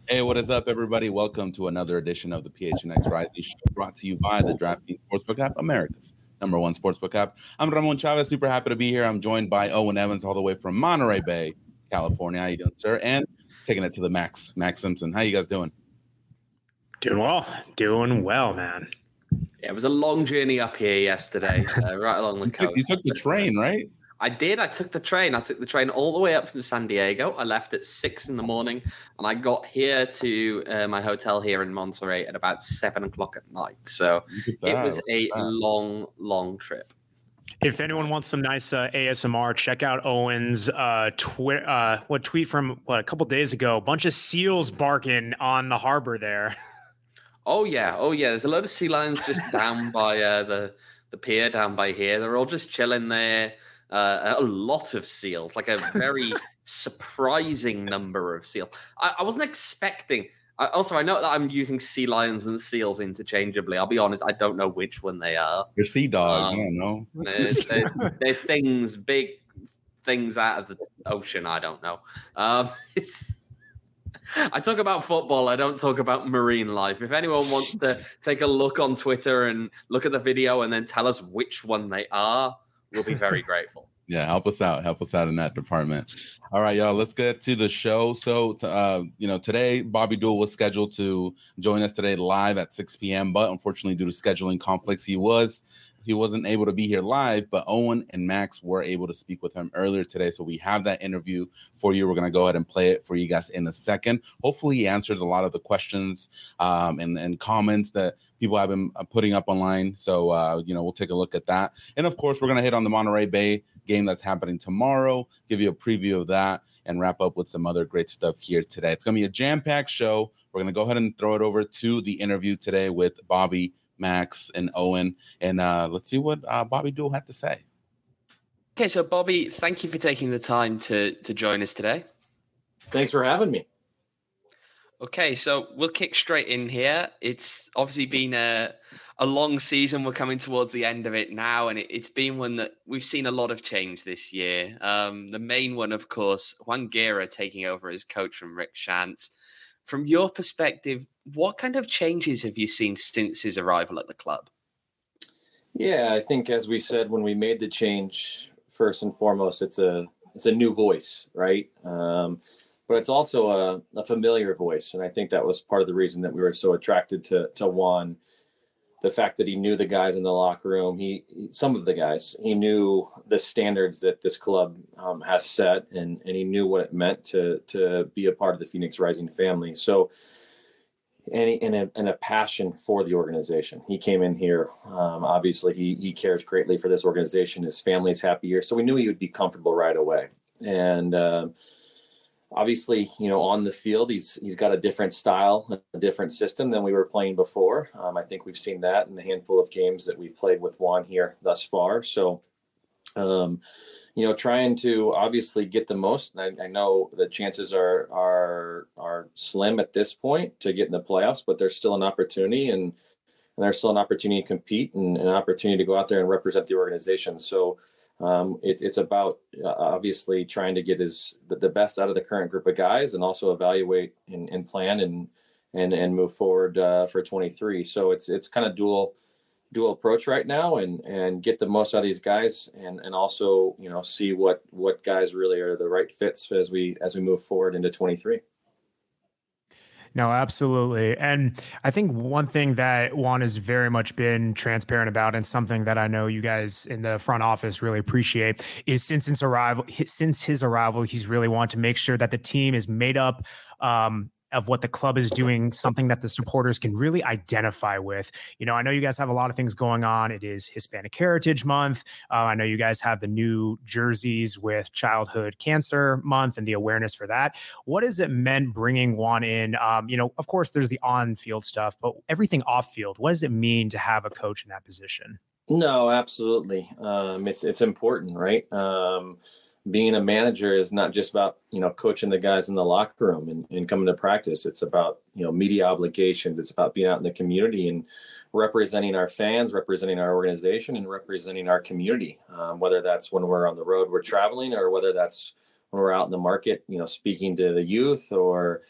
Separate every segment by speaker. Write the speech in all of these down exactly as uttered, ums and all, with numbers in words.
Speaker 1: Hey, what is up, everybody? Welcome to another edition of the P H N X Rising Show, brought to you by the DraftKings Sportsbook app, America's number one sportsbook app. I'm Ramon Chavez, super happy to be here. I'm joined by Owen Evans, all the way from Monterey Bay, California. How you doing, sir? And taking it to the max, Max Simpson. How you guys doing?
Speaker 2: Doing well. Doing well, man.
Speaker 3: Yeah, it was a long journey up here yesterday, uh, right along the
Speaker 1: you
Speaker 3: coast.
Speaker 1: Took, you took the train, right?
Speaker 3: I did. I took the train. I took the train all the way up from San Diego. I left at six in the morning, and I got here to uh, my hotel here in Monterey at about seven o'clock at night. So it was a long, long trip.
Speaker 2: If anyone wants some nice uh, A S M R, check out Owen's uh, twi- uh, what tweet from what a couple days ago. A bunch of seals barking on the harbor there.
Speaker 3: Oh yeah, oh yeah. There's a load of sea lions just down by uh, the the pier down by here. They're all just chilling there. Uh, a lot of seals, like a very surprising number of seals. I, I wasn't expecting. I, also, I know that I'm using sea lions and seals interchangeably. I'll be honest, I don't know which one they are.
Speaker 1: You're sea dogs.
Speaker 3: Um,
Speaker 1: I don't know.
Speaker 3: They're, they're, they're things, big things out of the ocean. I don't know. Um, it's. I talk about football. I don't talk about marine life. If anyone wants to take a look on Twitter and look at the video and then tell us which one they are, we'll be very grateful.
Speaker 1: Yeah, help us out. Help us out in that department. All right, y'all, let's get to the show. So, uh, you know, today, Bobby Dool was scheduled to join us today live at six p.m., but unfortunately, due to scheduling conflicts, he was he wasn't able to be here live, but Owen and Max were able to speak with him earlier today. So we have that interview for you. We're going to go ahead and play it for you guys in a second. Hopefully, he answers a lot of the questions um, and, and comments that people have been putting up online. So, uh, you know, we'll take a look at that. And, of course, we're going to hit on the Monterey Bay game that's happening tomorrow, give you a preview of that, and wrap up with some other great stuff here today. It's going to be a jam-packed show. We're going to go ahead and throw it over to the interview today with Bobby, Max, and Owen. And uh, let's see what uh, Bobby Dool had to say.
Speaker 3: Okay, so Bobby, thank you for taking the time to to join us today.
Speaker 4: Thanks for having me.
Speaker 3: Okay, so we'll kick straight in here. It's obviously been a a long season. We're coming towards the end of it now, and it, it's been one that we've seen a lot of change this year. Um, the main one, of course, Juan Guerra taking over as coach from Rick Schantz. From your perspective, what kind of changes have you seen since his arrival at the club?
Speaker 4: Yeah, I think as we said when we made the change, first and foremost, it's a it's a new voice, right? Um, but it's also a, a familiar voice, and I think that was part of the reason that we were so attracted to to Juan. The fact that he knew the guys in the locker room, he, he some of the guys, he knew the standards that this club um, has set, and and he knew what it meant to to be a part of the Phoenix Rising family. So, and, he, and, a, and a passion for the organization. He came in here. Um, obviously, he he cares greatly for this organization. His family's happy here, so we knew he would be comfortable right away. And uh, obviously, you know, on the field, he's he's got a different style, a different system than we were playing before. Um, I think we've seen that in the handful of games that we've played with Juan here thus far. So, um, you know, trying to obviously get the most. I, I know the chances are are are slim at this point to get in the playoffs, but there's still an opportunity, and, and there's still an opportunity to compete and an opportunity to go out there and represent the organization. So. Um, it, it's about uh, obviously trying to get his the, the best out of the current group of guys, and also evaluate and, and plan and and and move forward uh, for twenty-three. So it's it's kind of dual dual approach right now, and and get the most out of these guys, and and also, you know, see what what guys really are the right fits as we as we move forward into twenty-three.
Speaker 2: No, absolutely. And I think one thing that Juan has very much been transparent about, and something that I know you guys in the front office really appreciate, is since his arrival, since his arrival, he's really wanted to make sure that the team is made up um, of what the club is doing, something that the supporters can really identify with. You know, I know you guys have a lot of things going on. It is Hispanic Heritage Month. Uh, I know you guys have the new jerseys with Childhood Cancer Month and the awareness for that. What has it meant bringing Juan in? Um, you know, of course, there's the on-field stuff, but everything off-field, what does it mean to have a coach in that position?
Speaker 4: No, absolutely. Um, it's it's important, right? Um, being a manager is not just about, you know, coaching the guys in the locker room and, and coming to practice. It's about, you know, media obligations. It's about being out in the community and representing our fans, representing our organization, and representing our community. Um, whether that's when we're on the road, we're traveling, or whether that's when we're out in the market, you know, speaking to the youth, or,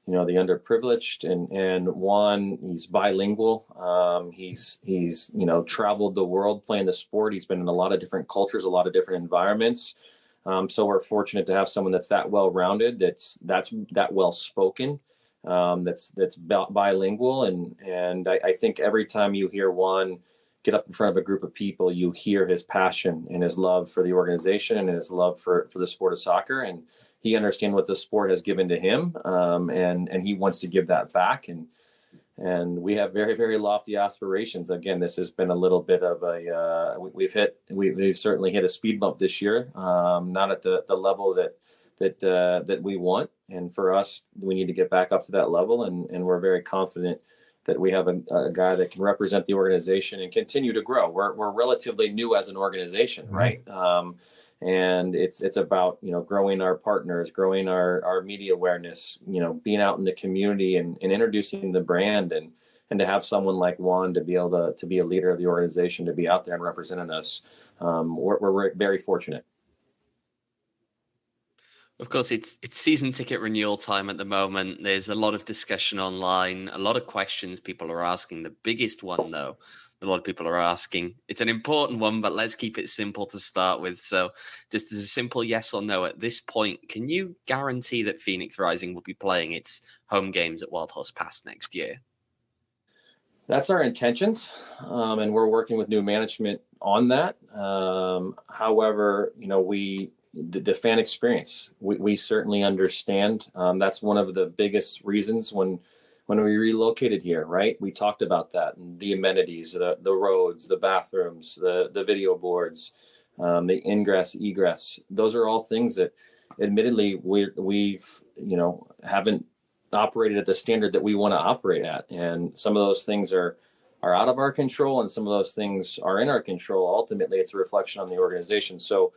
Speaker 4: you know, the underprivileged. And and Juan, he's bilingual. Um, he's he's you know traveled the world playing the sport. He's been in a lot of different cultures, a lot of different environments. Um, so we're fortunate to have someone that's that well rounded, that's that's that well spoken, um, that's that's bilingual. And and I, I think every time you hear Juan get up in front of a group of people, you hear his passion and his love for the organization and his love for for the sport of soccer. And he understands what the sport has given to him, um, and and he wants to give that back. And and we have very, very lofty aspirations. Again, this has been a little bit of a uh, we, we've hit we, we've certainly hit a speed bump this year, um, not at the the level that that uh, that we want. And for us, we need to get back up to that level. And and we're very confident that we have a, a guy that can represent the organization and continue to grow. We're we're relatively new as an organization, right? Um, and it's it's about you know growing our partners, growing our our media awareness, you know, being out in the community and, and introducing the brand, and and to have someone like Juan to be able to to be a leader of the organization, to be out there and representing us. Um, we're, we're very fortunate.
Speaker 3: Of course, it's it's season ticket renewal time at the moment. There's a lot of discussion online, a lot of questions people are asking. The biggest one, though, a lot of people are asking, it's an important one, but let's keep it simple to start with. So just as a simple yes or no at this point, can you guarantee that Phoenix Rising will be playing its home games at Wildhorse Pass next year?
Speaker 4: That's our intentions, um, and we're working with new management on that. Um, however, you know, we... The, the fan experience, we, we certainly understand. Um, that's one of the biggest reasons when when we relocated here, right? We talked about that, and the amenities, the, the roads, the bathrooms, the, the video boards, um, the ingress, egress. Those are all things that admittedly we, we've, you know, haven't operated at the standard that we want to operate at. And some of those things are are out of our control, and some of those things are in our control. Ultimately, it's a reflection on the organization. So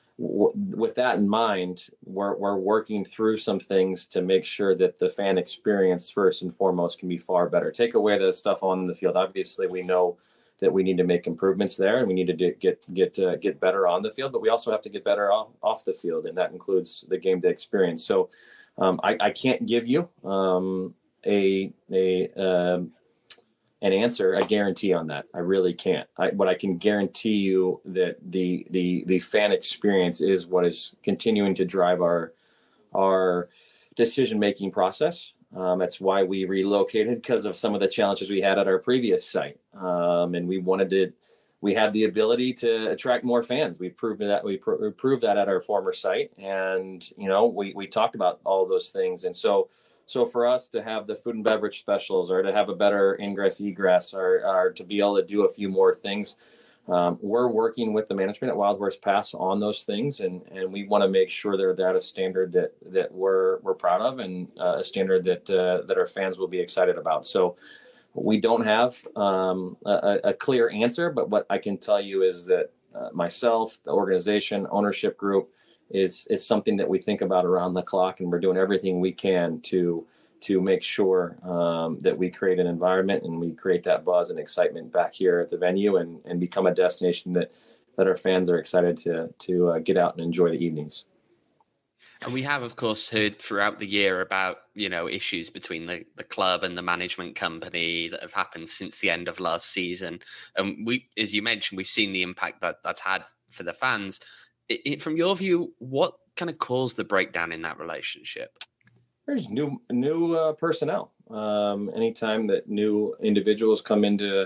Speaker 4: with that in mind, we're, we're working through some things to make sure that the fan experience, first and foremost, can be far better. Take away the stuff on the field. Obviously, we know that we need to make improvements there, and we need to get get uh, get better on the field. But we also have to get better off, off the field, and that includes the game day experience. So, um, I, I can't give you um, a a um, an answer, a guarantee on that. I really can't. I, what I can guarantee you that the the the fan experience is what is continuing to drive our our decision making process. Um, that's why we relocated, because of some of the challenges we had at our previous site, um, and we wanted to. We had the ability to attract more fans. We've proven that we pr- proved that at our former site, and you know we we talked about all those things, and so. So for us to have the food and beverage specials, or to have a better ingress egress, or, or to be able to do a few more things, um, we're working with the management at Wildhorse Pass on those things, and, and we want to make sure they're at a standard that that we're we're proud of, and uh, a standard that uh, that our fans will be excited about. So we don't have um, a, a clear answer, but what I can tell you is that uh, myself, the organization, ownership group, is is something that we think about around the clock, and we're doing everything we can to to make sure um, that we create an environment and we create that buzz and excitement back here at the venue, and, and become a destination that that our fans are excited to to uh, get out and enjoy the evenings.
Speaker 3: And we have, of course, heard throughout the year about, you know, issues between the, the club and the management company that have happened since the end of last season. And we, as you mentioned, we've seen the impact that that's had for the fans. It, it, from your view, what kind of caused the breakdown in that relationship?
Speaker 4: There's new new uh, personnel. Um, anytime that new individuals come into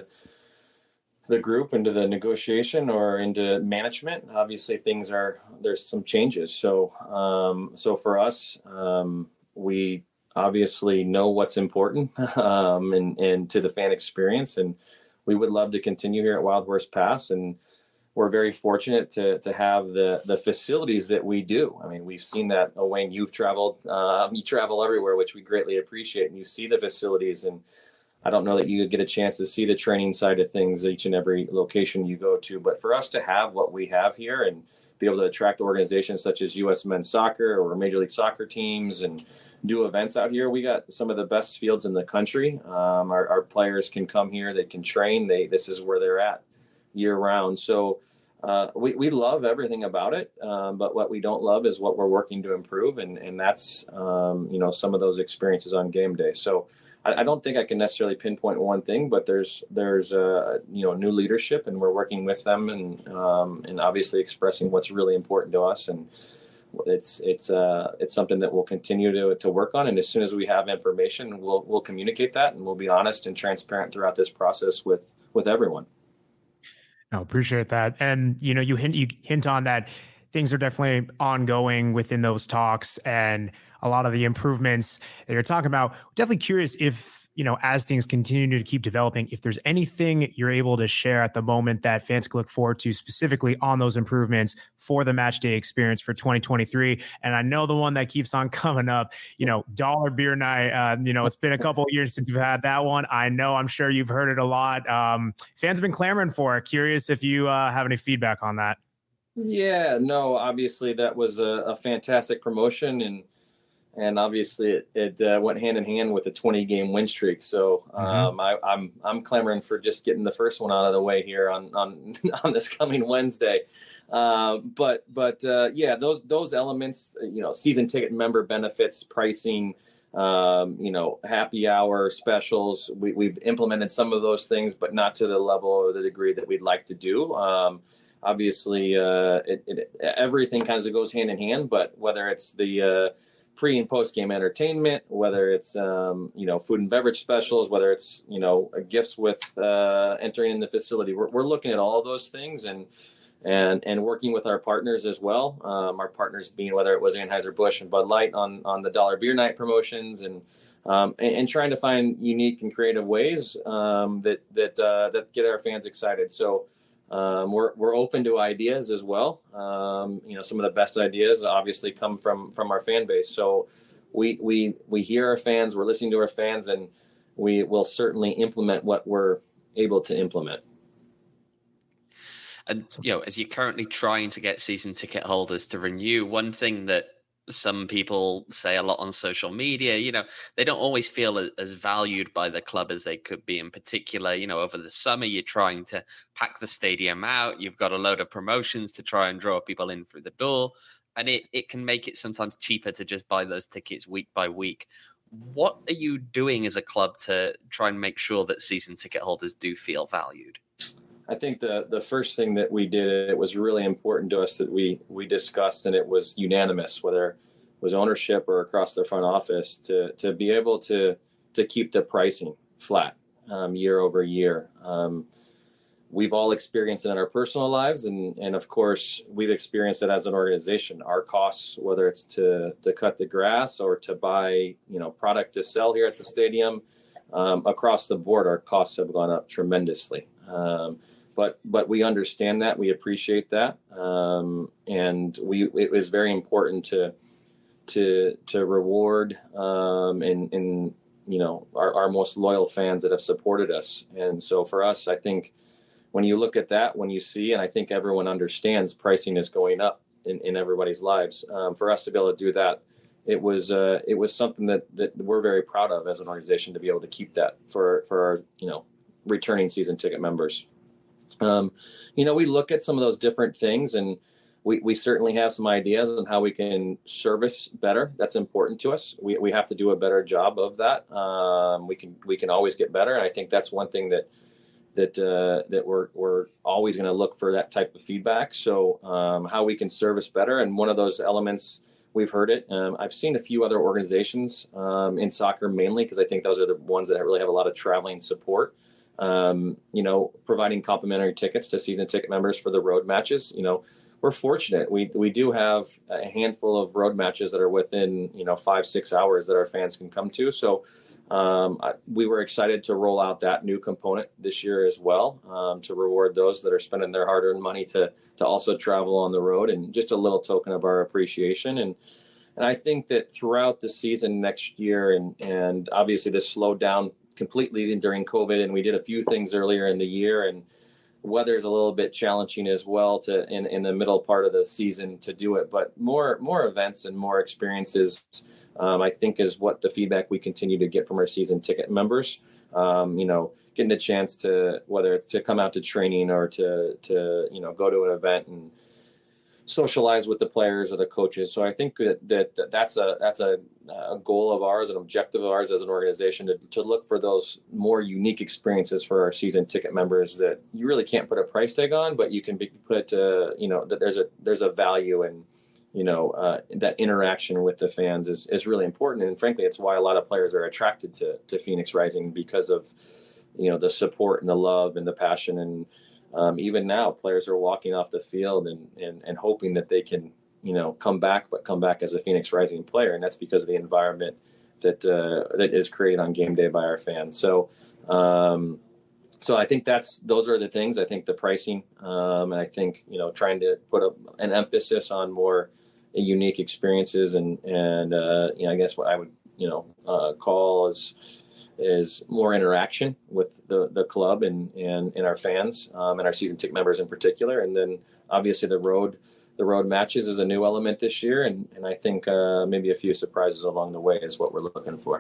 Speaker 4: the group, into the negotiation or into management, obviously things are, there's some changes. So um, so for us, um, we obviously know what's important um, and, and to the fan experience. And we would love to continue here at Wildhorse Pass, and we're very fortunate to to have the the facilities that we do. I mean, we've seen that. Oh, Wayne, you've traveled, um, you travel everywhere, which we greatly appreciate. And you see the facilities, and I don't know that you get a chance to see the training side of things each and every location you go to. But for us to have what we have here and be able to attract organizations such as U S Men's Soccer or Major League Soccer teams and do events out here, we got some of the best fields in the country. Um, our, our players can come here, they can train. They this is where they're at year round. So uh, we, we love everything about it. Um, but what we don't love is what we're working to improve. And, and that's, um, you know, some of those experiences on game day. So I, I don't think I can necessarily pinpoint one thing, but there's, there's, uh, you know, new leadership, and we're working with them, and, um, and obviously expressing what's really important to us. And it's, it's, uh, it's something that we'll continue to, to work on. And as soon as we have information, we'll, we'll communicate that, and we'll be honest and transparent throughout this process with, with everyone.
Speaker 2: I appreciate that. And, you know, you hint, you hint on that things are definitely ongoing within those talks, and a lot of the improvements that you're talking about. Definitely curious if, you know, as things continue to keep developing, if there's anything you're able to share at the moment that fans can look forward to specifically on those improvements for the match day experience for twenty twenty-three. And I know the one that keeps on coming up, you know, dollar beer night. Uh, you know, it's been a couple of years since you've had that one. I know, I'm sure you've heard it a lot. Um, fans have been clamoring for it. Curious if you uh, have any feedback on that.
Speaker 4: Yeah, no, obviously that was a, a fantastic promotion, and and obviously it, it uh, went hand in hand with a twenty game win streak. So um, mm-hmm. I, I'm I'm clamoring for just getting the first one out of the way here on on on this coming Wednesday. Uh, but but uh, yeah, those those elements, you know, season ticket member benefits, pricing, um, you know, happy hour specials. We, we've implemented some of those things, but not to the level or the degree that we'd like to do. Um, obviously, uh, it, it, everything kind of goes hand in hand. But whether it's the uh, pre and post game entertainment, whether it's, um, you know, food and beverage specials, whether it's, you know, gifts with uh, entering in the facility, we're, we're looking at all of those things, and, and, and working with our partners as well. Um, our partners being, whether it was Anheuser-Busch and Bud Light on, on the dollar beer night promotions, and, um, and, and trying to find unique and creative ways um, that, that, uh, that get our fans excited. So, Um, we're we're open to ideas as well. Um, you know, some of the best ideas obviously come from from our fan base. So we we we hear our fans, we're listening to our fans, and we will certainly implement what we're able to implement.
Speaker 3: And you know, as you're currently trying to get season ticket holders to renew, one thing that some people say a lot on social media, you know, they don't always feel as valued by the club as they could be. In particular, you know, over the summer, you're trying to pack the stadium out. You've got a load of promotions to try and draw people in through the door. And it, it can make it sometimes cheaper to just buy those tickets week by week. What are you doing as a club to try and make sure that season ticket holders do feel valued?
Speaker 4: I think the the first thing that we did, it was really important to us that we we discussed, and it was unanimous, whether it was ownership or across the front office, to to be able to to keep the pricing flat um, year over year. Um, we've all experienced it in our personal lives, and and of course we've experienced it as an organization. Our costs, whether it's to to cut the grass or to buy, you know, product to sell here at the stadium, um, across the board, our costs have gone up tremendously. Um, But but we understand that, we appreciate that, um, and we it was very important to to to reward um, and and you know our, our most loyal fans that have supported us. And so for us, I think when you look at that, when you see, and I think everyone understands, pricing is going up in, in everybody's lives. Um, for us to be able to do that, it was uh, it was something that that we're very proud of as an organization, to be able to keep that for for our you know returning season ticket members. Um, you know, we look at some of those different things, and we, we certainly have some ideas on how we can service better. That's important to us. We we have to do a better job of that. Um, we can we can always get better, and I think that's one thing that that uh, that we're we're always going to look for, that type of feedback. So um, how we can service better, and one of those elements, we've heard it. Um, I've seen a few other organizations um, in soccer mainly, because I think those are the ones that really have a lot of traveling support. Um, you know, providing complimentary tickets to season ticket members for the road matches. You know, we're fortunate. We we do have a handful of road matches that are within, you know, five, six hours that our fans can come to. So um, I, we were excited to roll out that new component this year as well, um, to reward those that are spending their hard-earned money to to also travel on the road, and just a little token of our appreciation. And and I think that throughout the season next year, and and obviously this slowed down completely during COVID, and we did a few things earlier in the year, and weather is a little bit challenging as well to in, in the middle part of the season to do it. But more more events and more experiences, um, I think, is what the feedback we continue to get from our season ticket members. Um, you know, getting a chance to, whether it's to come out to training or to, to, you know, go to an event and socialize with the players or the coaches. So I think that, that that's a, that's a, a goal of ours, an objective of ours as an organization, to, to look for those more unique experiences for our season ticket members that you really can't put a price tag on, but you can be put, uh, you know, that there's a, there's a value in, you know, uh, that interaction with the fans is, is really important. And frankly, it's why a lot of players are attracted to, to Phoenix Rising, because of, you know, the support and the love and the passion. And um, even now players are walking off the field and, and, and hoping that they can, you know, come back, but come back as a Phoenix Rising player. And that's because of the environment that, uh, that is created on game day by our fans. So, um, so I think that's, those are the things. I think the pricing, um, and I think, you know, trying to put a, an emphasis on more unique experiences and, and, uh, you know, I guess what I would, you know, uh, call is, is more interaction with the, the club and, and, and our fans, um, and our season ticket members in particular. And then obviously the road, the road matches is a new element this year. And, and I think, uh, maybe a few surprises along the way is what we're looking for.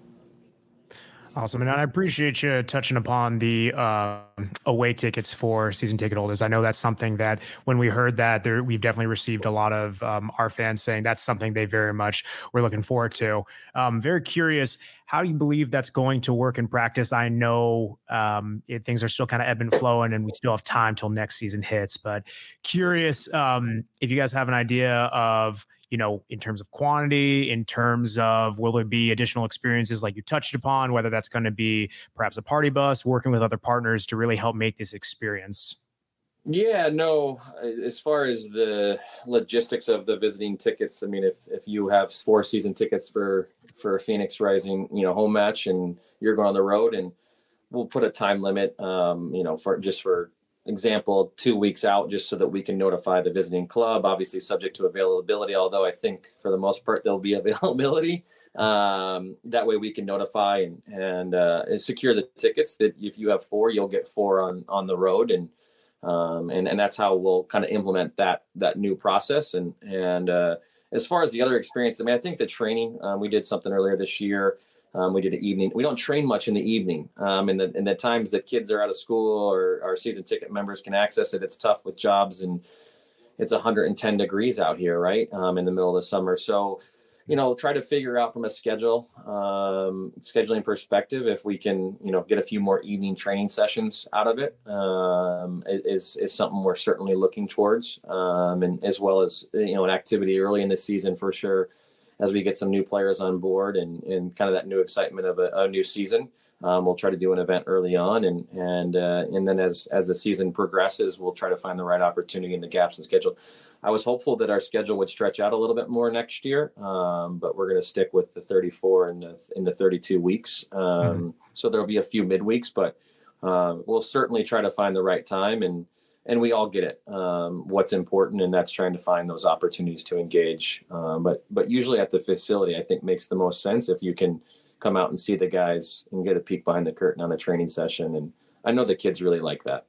Speaker 2: Awesome. And I appreciate you touching upon the uh, away tickets for season ticket holders. I know that's something that when we heard that, there, we've definitely received a lot of um, our fans saying that's something they very much were looking forward to. Um, very curious, how do you believe that's going to work in practice? I know um, it, things are still kind of ebb and flowing and we still have time till next season hits, but curious um, if you guys have an idea of, you know, in terms of quantity, in terms of will there be additional experiences like you touched upon, whether that's going to be perhaps a party bus, working with other partners to really help make this experience?
Speaker 4: Yeah, no, as far as the logistics of the visiting tickets, I mean, if, if you have four season tickets for, for a Phoenix Rising, you know, home match and you're going on the road, and we'll put a time limit, um, you know, for just for example, two weeks out, just so that we can notify the visiting club, obviously subject to availability. Although I think for the most part, there'll be availability. Um, that way we can notify and, and, uh, and secure the tickets that if you have four, you'll get four on, on the road. And, um, and, and that's how we'll kind of implement that, that new process. And, and, uh, as far as the other experience, I mean, I think the training, um, we did something earlier this year. Um, we did an evening. We don't train much in the evening. Um, and the, in the times that kids are out of school or our season ticket members can access it, it's tough with jobs and it's one hundred ten degrees out here, right? Um, in the middle of the summer. So, you know, try to figure out from a schedule, um, scheduling perspective, if we can, you know, get a few more evening training sessions out of it, um, is, is something we're certainly looking towards. Um, and as well as, you know, an activity early in the season for sure, as we get some new players on board and, and kind of that new excitement of a, a new season. Um, we'll try to do an event early on. And, and, uh, and then as, as the season progresses, we'll try to find the right opportunity in the gaps in schedule. I was hopeful that our schedule would stretch out a little bit more next year. Um, but we're going to stick with the thirty-four and the, in the thirty-two weeks. Um, mm-hmm. So there'll be a few midweeks, but, um, we'll certainly try to find the right time, and, and we all get it, um, what's important. And that's trying to find those opportunities to engage. Um, but, but usually at the facility, I think makes the most sense if you can come out and see the guys and get a peek behind the curtain on a training session. And I know the kids really like that.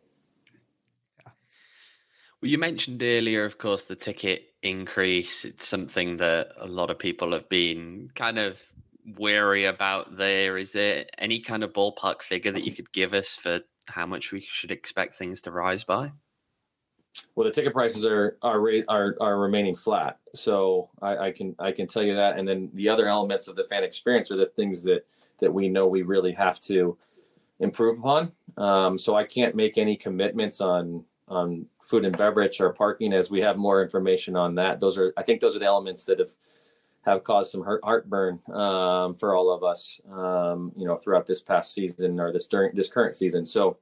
Speaker 3: Yeah. Well, you mentioned earlier, of course, the ticket increase. It's something that a lot of people have been kind of wary about there. Is there any kind of ballpark figure that you could give us for how much we should expect things to rise by?
Speaker 4: Well, the ticket prices are are are, are remaining flat, so I, I can I can tell you that. And then the other elements of the fan experience are the things that that we know we really have to improve upon. Um, so I can't make any commitments on on food and beverage or parking as we have more information on that. Those are I think those are the elements that have have caused some heart, heartburn um, for all of us, um, you know, throughout this past season or this during this current season. So.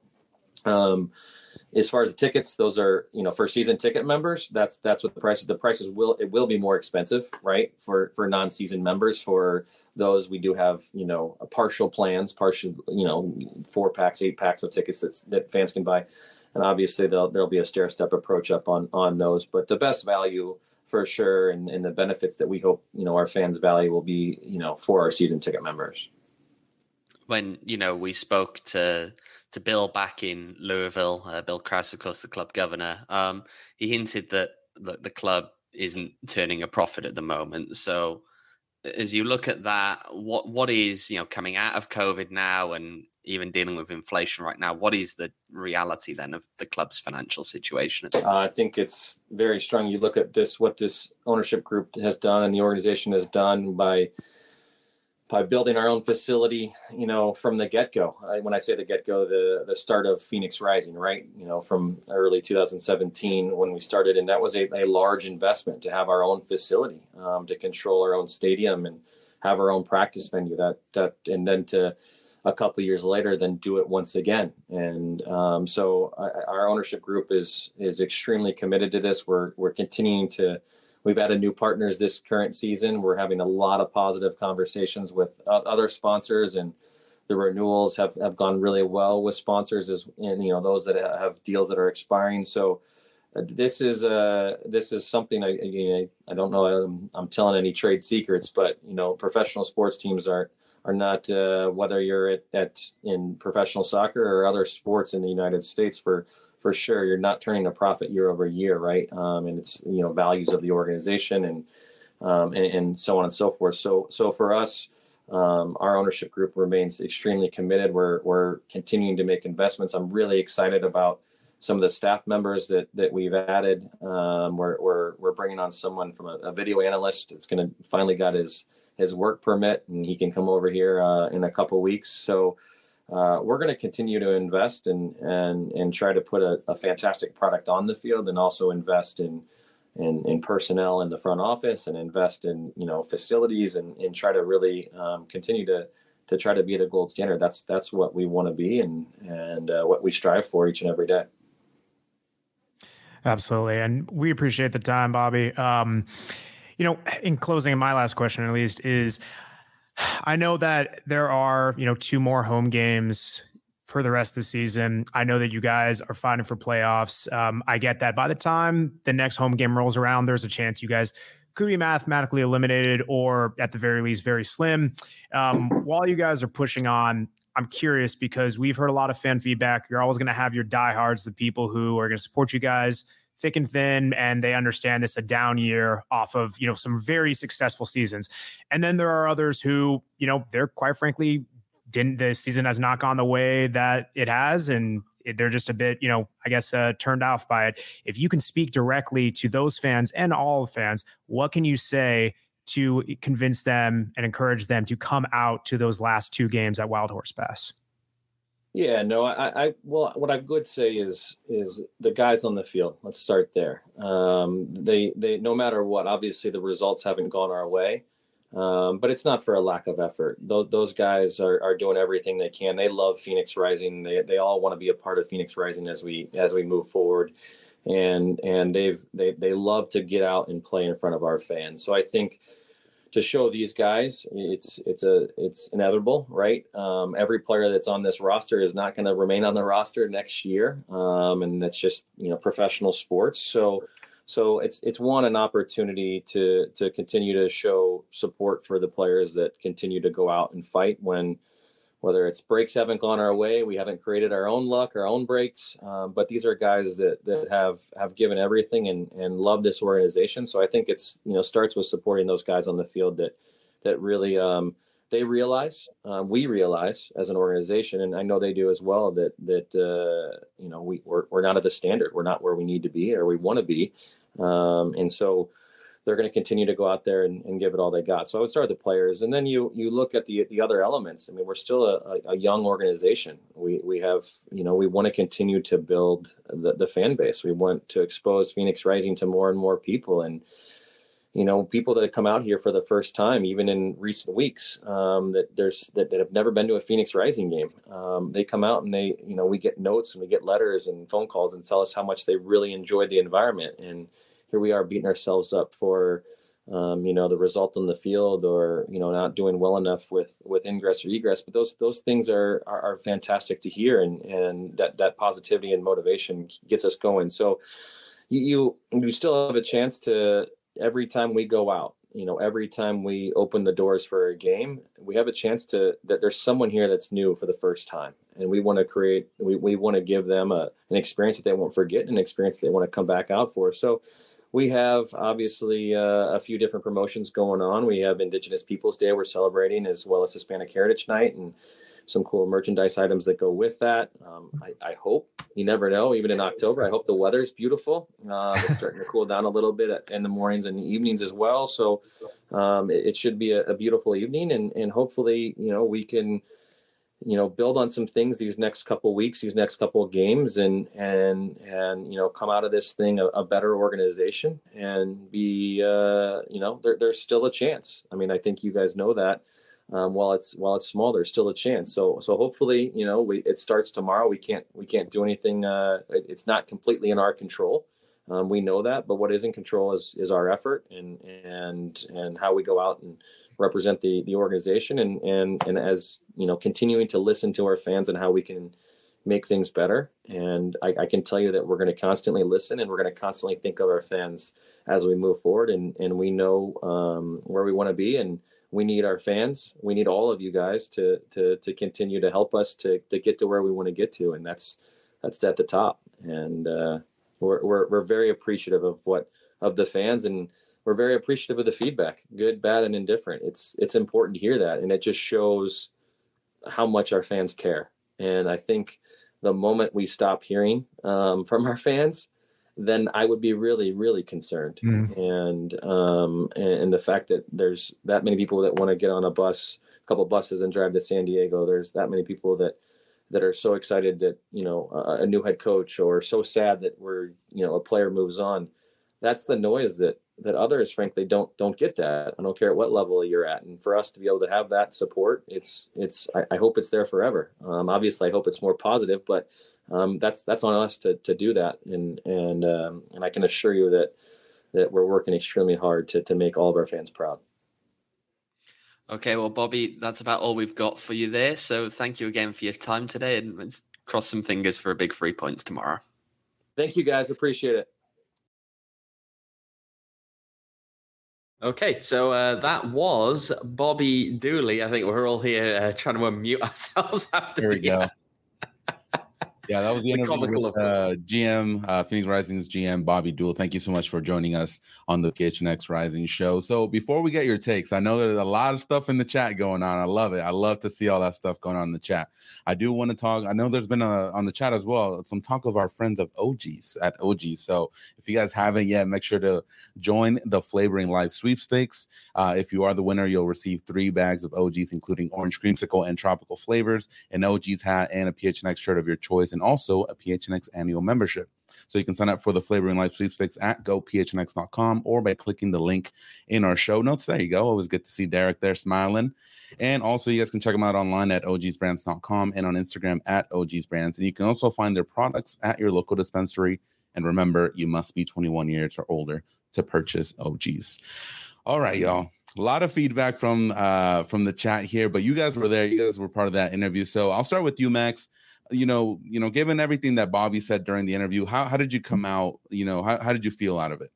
Speaker 4: Um, As far as the tickets, those are, you know, for season ticket members, that's, that's what the prices, the prices will, it will be more expensive, right? For, for non-season members. For those, we do have, you know, a partial plans, partial, you know, four packs, eight packs of tickets that's, that fans can buy. And obviously there'll, there'll be a stair step approach up on, on those, but the best value for sure. And, and the benefits that we hope, you know, our fans value will be, you know, for our season ticket members.
Speaker 3: When, you know, we spoke to, to Bill back in Louisville, uh, Bill Krause, of course, the club governor, um, he hinted that the, the club isn't turning a profit at the moment. So as you look at that, what what is, you know, coming out of COVID now and even dealing with inflation right now. What is the reality then of the club's financial situation?
Speaker 4: Uh, I think it's very strong. You look at this, what this ownership group has done and the organization has done by by building our own facility, you know, from the get-go. I, when I say the get-go, the the start of Phoenix Rising, right? You know, from early two thousand seventeen when we started, and that was a, a large investment to have our own facility, um, to control our own stadium and have our own practice venue. That that and then to a couple of years later, then do it once again. And um, so I, our ownership group is is extremely committed to this. We're we're continuing to. We've added new partners this current season. We're having a lot of positive conversations with other sponsors, and the renewals have, have gone really well with sponsors, as and you know those that have deals that are expiring. So uh, this is uh this is something I you know, I don't know I'm, I'm telling any trade secrets, but you know professional sports teams are are not uh, whether you're at, at in professional soccer or other sports in the United States for. For sure, you're not turning a profit year over year, right? Um, and it's you know values of the organization and, um, and and so on and so forth. So so for us, um, our ownership group remains extremely committed. We're we're continuing to make investments. I'm really excited about some of the staff members that that we've added. Um, we're we're we're bringing on someone from a, a video analyst that's going to finally got his his work permit, and he can come over here uh, in a couple weeks. So. Uh, we're going to continue to invest and and and try to put a, a fantastic product on the field, and also invest in, in in personnel in the front office, and invest in you know facilities, and, and try to really um, continue to to try to be the gold standard. That's that's what we want to be, and and uh, what we strive for each and every day.
Speaker 2: Absolutely, and we appreciate the time, Bobby. Um, you know, in closing, my last question at least is. I know that there are, you know, two more home games for the rest of the season. I know that you guys are fighting for playoffs. Um, I get that by the time the next home game rolls around, there's a chance you guys could be mathematically eliminated, or at the very least, very slim. Um, while you guys are pushing on, I'm curious because we've heard a lot of fan feedback. You're always going to have your diehards, the people who are going to support you guys thick and thin, and they understand this a down year off of, you know, some very successful seasons. And then there are others who, you know, they're quite frankly, didn't, the season has not gone the way that it has. And they're just a bit, you know, I guess, uh, turned off by it. If you can speak directly to those fans and all fans, what can you say to convince them and encourage them to come out to those last two games at Wild Horse Pass?
Speaker 4: Yeah, no, I, I, well, what I would say is, is the guys on the field. Let's start there. Um, they, they, no matter what, obviously the results haven't gone our way, um, but it's not for a lack of effort. Those, those guys are, are doing everything they can. They love Phoenix Rising. They, they all want to be a part of Phoenix Rising as we, as we move forward. And, and they've, they, they love to get out and play in front of our fans. So I think, to show these guys, it's it's a it's inevitable, right? Um, every player that's on this roster is not going to remain on the roster next year, um, and that's just you know professional sports. So so it's it's one an opportunity to to continue to show support for the players that continue to go out and fight when. Whether it's breaks haven't gone our way, we haven't created our own luck, our own breaks, um, but these are guys that that have have given everything and and love this organization. So I think it's you know starts with supporting those guys on the field that that really um, they realize, uh, we realize as an organization, and I know they do as well, that that uh, you know we we're, we're not at the standard, we're not where we need to be or we want to be, um, and so. They're going to continue to go out there and, and give it all they got. So I would start with the players, and then you you look at the the other elements. I mean, we're still a, a young organization. We we have you know we want to continue to build the, the fan base. We want to expose Phoenix Rising to more and more people, and you know people that come out here for the first time, even in recent weeks, um, that there's that, that have never been to a Phoenix Rising game. Um, they come out and they you know we get notes and we get letters and phone calls and tell us how much they really enjoy the environment. And here we are beating ourselves up for, um, you know, the result on the field, or you know, not doing well enough with with ingress or egress. But those those things are are, are fantastic to hear, and and that that positivity and motivation gets us going. So you you, you still have a chance to every time we go out. You know, every time we open the doors for a game, we have a chance to that there's someone here that's new for the first time, and we want to create. We we want to give them a an experience that they won't forget, an experience that they want to come back out for. So. We have obviously uh, a few different promotions going on. We have Indigenous Peoples Day we're celebrating, as well as Hispanic Heritage Night, and some cool merchandise items that go with that. Um, I, I hope, you never know, even in October, I hope the weather's beautiful. Uh, it's starting to cool down a little bit in the mornings and the evenings as well. So um, it, it should be a, a beautiful evening, and, and hopefully, you know, we can, you know, build on some things these next couple of weeks, these next couple of games, and, and, and, you know, come out of this thing a, a better organization and be, uh, you know, there, there's still a chance. I mean, I think you guys know that. Um, while it's while it's small, there's still a chance. So so hopefully, you know, we it starts tomorrow. We can't we can't do anything. Uh, it, it's not completely in our control. Um, we know that, but what is in control is is our effort and and and how we go out and represent the the organization, and and and as you know, continuing to listen to our fans and how we can make things better. And I, I can tell you that we're going to constantly listen, and we're going to constantly think of our fans as we move forward. And and we know um, where we want to be, and we need our fans. We need all of you guys to to to continue to help us to to get to where we want to get to, and that's that's at the top. And uh, we're we're we're very appreciative of what of the fans, and we're very appreciative of the feedback, good, bad, and indifferent. It's it's important to hear that, and it just shows how much our fans care. And I think the moment we stop hearing um, from our fans, then I would be really, really concerned. Mm. And, um, and and the fact that there's that many people that want to get on a bus, a couple of buses, and drive to San Diego. There's that many people that that are so excited that, you know, a, a new head coach, or so sad that we're, you know, a player moves on. That's the noise that that others, frankly, don't don't get that. I don't care at what level you're at. And for us to be able to have that support, it's it's I, I hope it's there forever. Um, obviously, I hope it's more positive, but Um, that's that's on us to to do that, and and um, and I can assure you that that we're working extremely hard to to make all of our fans proud.
Speaker 3: Okay, well, Bobby, that's about all we've got for you there. So thank you again for your time today, and let's cross some fingers for a big three points tomorrow.
Speaker 4: Thank you, guys. Appreciate it.
Speaker 3: Okay, so uh, that was Bobby Dooley. I think we're all here uh, trying to unmute ourselves after.
Speaker 1: There we
Speaker 3: the,
Speaker 1: go.
Speaker 3: uh,
Speaker 1: Yeah, that was the, the interview with uh, G M, uh, Phoenix Rising's G M, Bobby Dooley. Thank you so much for joining us on the P H N X Rising show. So before we get your takes, I know there's a lot of stuff in the chat going on. I love it. I love to see all that stuff going on in the chat. I do want to talk. I know there's been a, on the chat as well, some talk of our friends of O Gs at O Gs. So if you guys haven't yet, make sure to join the Flavoring Life sweepstakes. Uh, if you are the winner, you'll receive three bags of O Gs, including orange creamsicle and tropical flavors, an O Gs hat, and a P H N X shirt of your choice, and also a P H N X annual membership. So you can sign up for the Flavoring Life sweepstakes at go p h n x dot com or by clicking the link in our show notes. There you go. Always good to see Derek there smiling. And also you guys can check them out online at o g s brands dot com and on Instagram at o g s brands. And you can also find their products at your local dispensary. And remember, you must be twenty-one years or older to purchase O Gs. All right, y'all. A lot of feedback from uh, from the chat here, but you guys were there. You guys were part of that interview. So I'll start with you, Max. You know, you know, given everything that Bobby said during the interview, how how did you come out? You know, how, how did you feel out of it?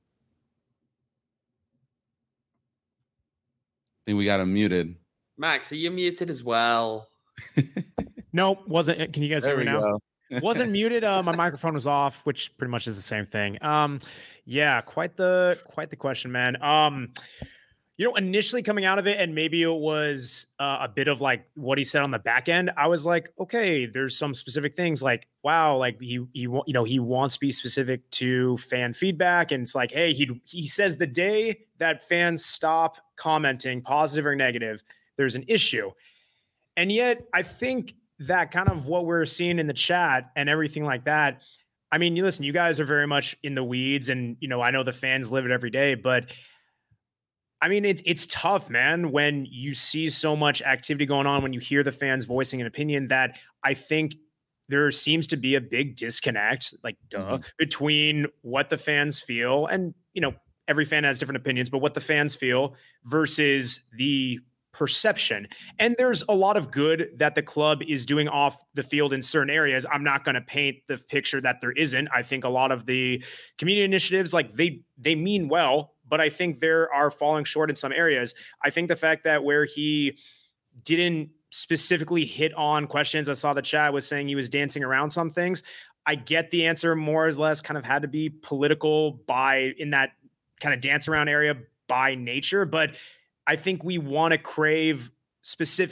Speaker 1: I think we got him muted.
Speaker 3: Max, are you muted as well?
Speaker 2: Nope, wasn't. Can you guys
Speaker 1: There
Speaker 2: hear me now?
Speaker 1: go.
Speaker 2: Wasn't muted. Uh, my microphone was off, which pretty much is the same thing. Um, yeah, quite the quite the question, man. Um, you know, initially coming out of it, and maybe it was uh, a bit of like what he said on the back end. I was like, okay, there's some specific things like, wow, like he he you know he wants to be specific to fan feedback, and it's like, hey, he he says the day that fans stop commenting, positive or negative, there's an issue, and yet I think that kind of what we're seeing in the chat and everything like that. I mean, you listen, you guys are very much in the weeds, and you know, I know the fans live it every day, but I mean, it's it's tough, man, when you see so much activity going on, when you hear the fans voicing an opinion, that I think there seems to be a big disconnect, like duh, mm-hmm. between what the fans feel, and you know, every fan has different opinions, but what the fans feel versus the perception. And there's a lot of good that the club is doing off the field in certain areas. I'm not going to paint the picture that there isn't. I think a lot of the community initiatives, like they they mean well, but I think there are falling short in some areas. I think the fact that where he didn't specifically hit on questions, I saw the chat was saying he was dancing around some things. I get the answer more or less kind of had to be political by in that kind of dance around area by nature, but I think we want to crave specific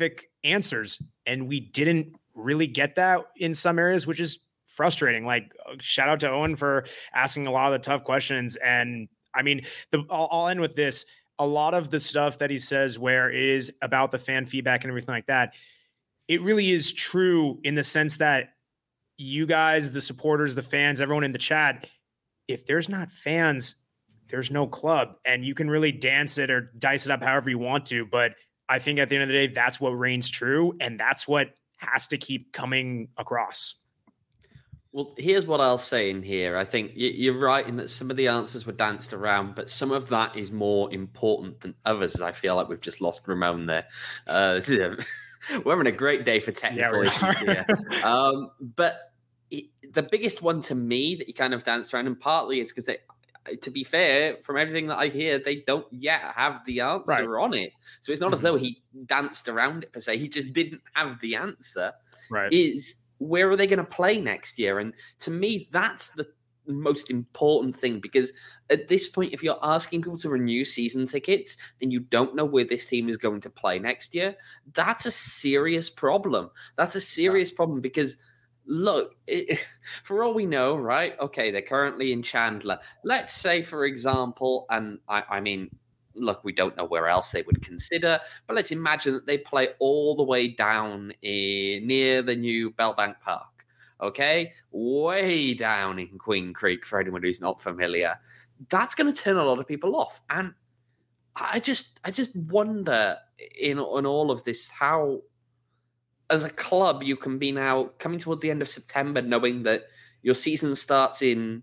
Speaker 2: answers. And we didn't really get that in some areas, which is frustrating. Like, shout out to Owen for asking a lot of the tough questions. And I mean, the, I'll, I'll end with this. A lot of the stuff that he says where it is about the fan feedback and everything like that, it really is true in the sense that you guys, the supporters, the fans, everyone in the chat, if there's not fans, there's no club, and you can really dance it or dice it up however you want to. But I think at the end of the day, that's what reigns true. And that's what has to keep coming across.
Speaker 3: Well, here's what I'll say in here. I think you're right in that some of the answers were danced around, but some of that is more important than others. I feel like we've just lost Ramon there. Uh, we're having a great day for technical
Speaker 2: yeah,
Speaker 3: issues here. Um, but it, the biggest one to me that you kind of danced around, and partly is because they, to be fair, from everything that I hear, they don't yet have the answer right. on it. So it's not mm-hmm. as though he danced around it per se. He just didn't have the answer.
Speaker 2: Right.
Speaker 3: Is where are they going to play next year? And to me, that's the most important thing, because at this point, if you're asking people to renew season tickets and you don't know where this team is going to play next year, that's a serious problem. That's a serious yeah. problem because look, it, for all we know, right? Okay, they're currently in Chandler. Let's say, for example, and I, I mean, look, we don't know where else they would consider, but let's imagine that they play all the way down in, near the new Bellbank Park, okay? Way down in Queen Creek, for anyone who's not familiar. That's going to turn a lot of people off. And I just I just wonder in, in all of this how, as a club, you can be now coming towards the end of September knowing that your season starts in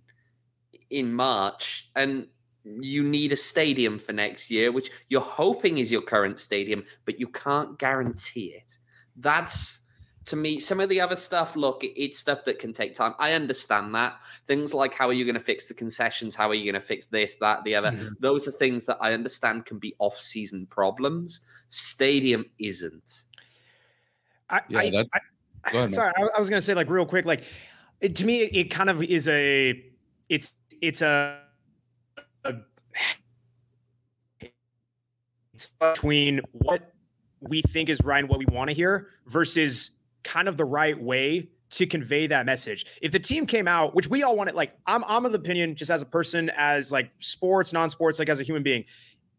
Speaker 3: in March and you need a stadium for next year, which you're hoping is your current stadium, but you can't guarantee it. That's, to me, some of the other stuff, look, it's stuff that can take time. I understand that. Things like how are you going to fix the concessions? How are you going to fix this, that, the other? Mm-hmm. Those are things that I understand can be off-season problems. Stadium isn't.
Speaker 2: I, yeah, I, that's. I, go ahead, sorry, I, I was going to say, like, real quick, like, it, to me, it, it kind of is a, it's, it's a, a, it's between what we think is right and what we want to hear versus kind of the right way to convey that message. If the team came out, which we all wanted, like, I'm, I'm of the opinion, just as a person, as like sports, non-sports, like as a human being,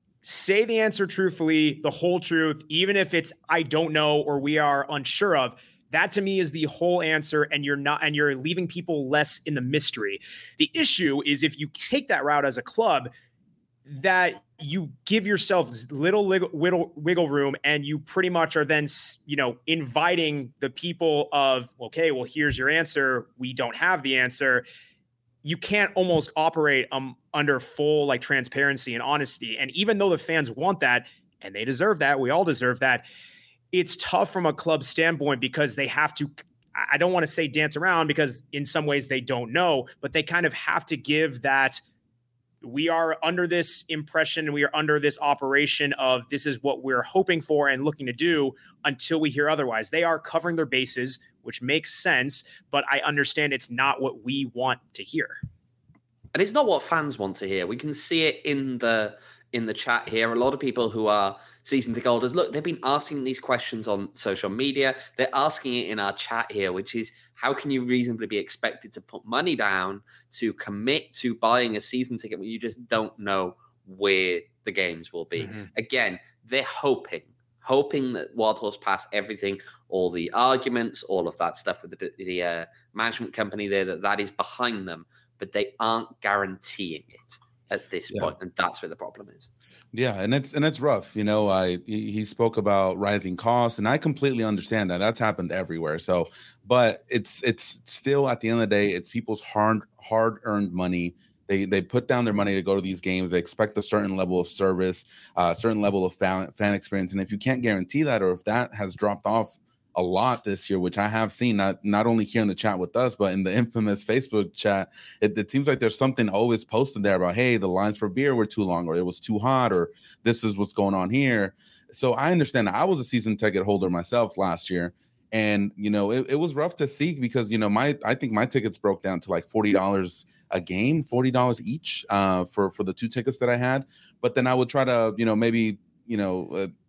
Speaker 2: say the answer truthfully, the whole truth, even if it's I don't know or we are unsure of. That to me is the whole answer, and you're not, and you're leaving people less in the mystery. The issue is if you take that route as a club, that you give yourself little wiggle, wiggle room, and you pretty much are then, you know, inviting the people of, okay, well, here's your answer. We don't have the answer. You can't almost operate um, under full like transparency and honesty. And even though the fans want that, and they deserve that, we all deserve that, it's tough from a club standpoint because they have to, I don't want to say dance around because in some ways they don't know, but they kind of have to give that we are under this impression, we are under this operation of this is what we're hoping for and looking to do until we hear otherwise. They are covering their bases, which makes sense, but I understand it's not what we want to hear.
Speaker 3: And it's not what fans want to hear. We can see it in the in the chat here. A lot of people who are season ticket holders, look, they've been asking these questions on social media. They're asking it in our chat here, which is, how can you reasonably be expected to put money down to commit to buying a season ticket when you just don't know where the games will be? Mm-hmm. Again, they're hoping, hoping that Wild Horse Pass, everything, all the arguments, all of that stuff with the, the uh, management company there, that that is behind them, but they aren't guaranteeing it at this yeah. point, and that's where the problem is.
Speaker 1: Yeah, and it's and it's rough. You know, I he, he spoke about rising costs, and I completely understand that. That's happened everywhere. So, but it's it's still at the end of the day, it's people's hard hard earned money. They they put down their money to go to these games. They expect a certain level of service, a uh, certain level of fan fan experience, and if you can't guarantee that, or if that has dropped off a lot this year, which I have seen, not not only here in the chat with us, but in the infamous Facebook chat, it, it seems like there's something always posted there about, hey, the lines for beer were too long, or it was too hot, or this is what's going on here. So I understand that. I was a season ticket holder myself last year, and you know it, it was rough to see because you know my I think my tickets broke down to like forty dollars a game, forty dollars each uh, for for the two tickets that I had. But then I would try to you know maybe you know. Uh,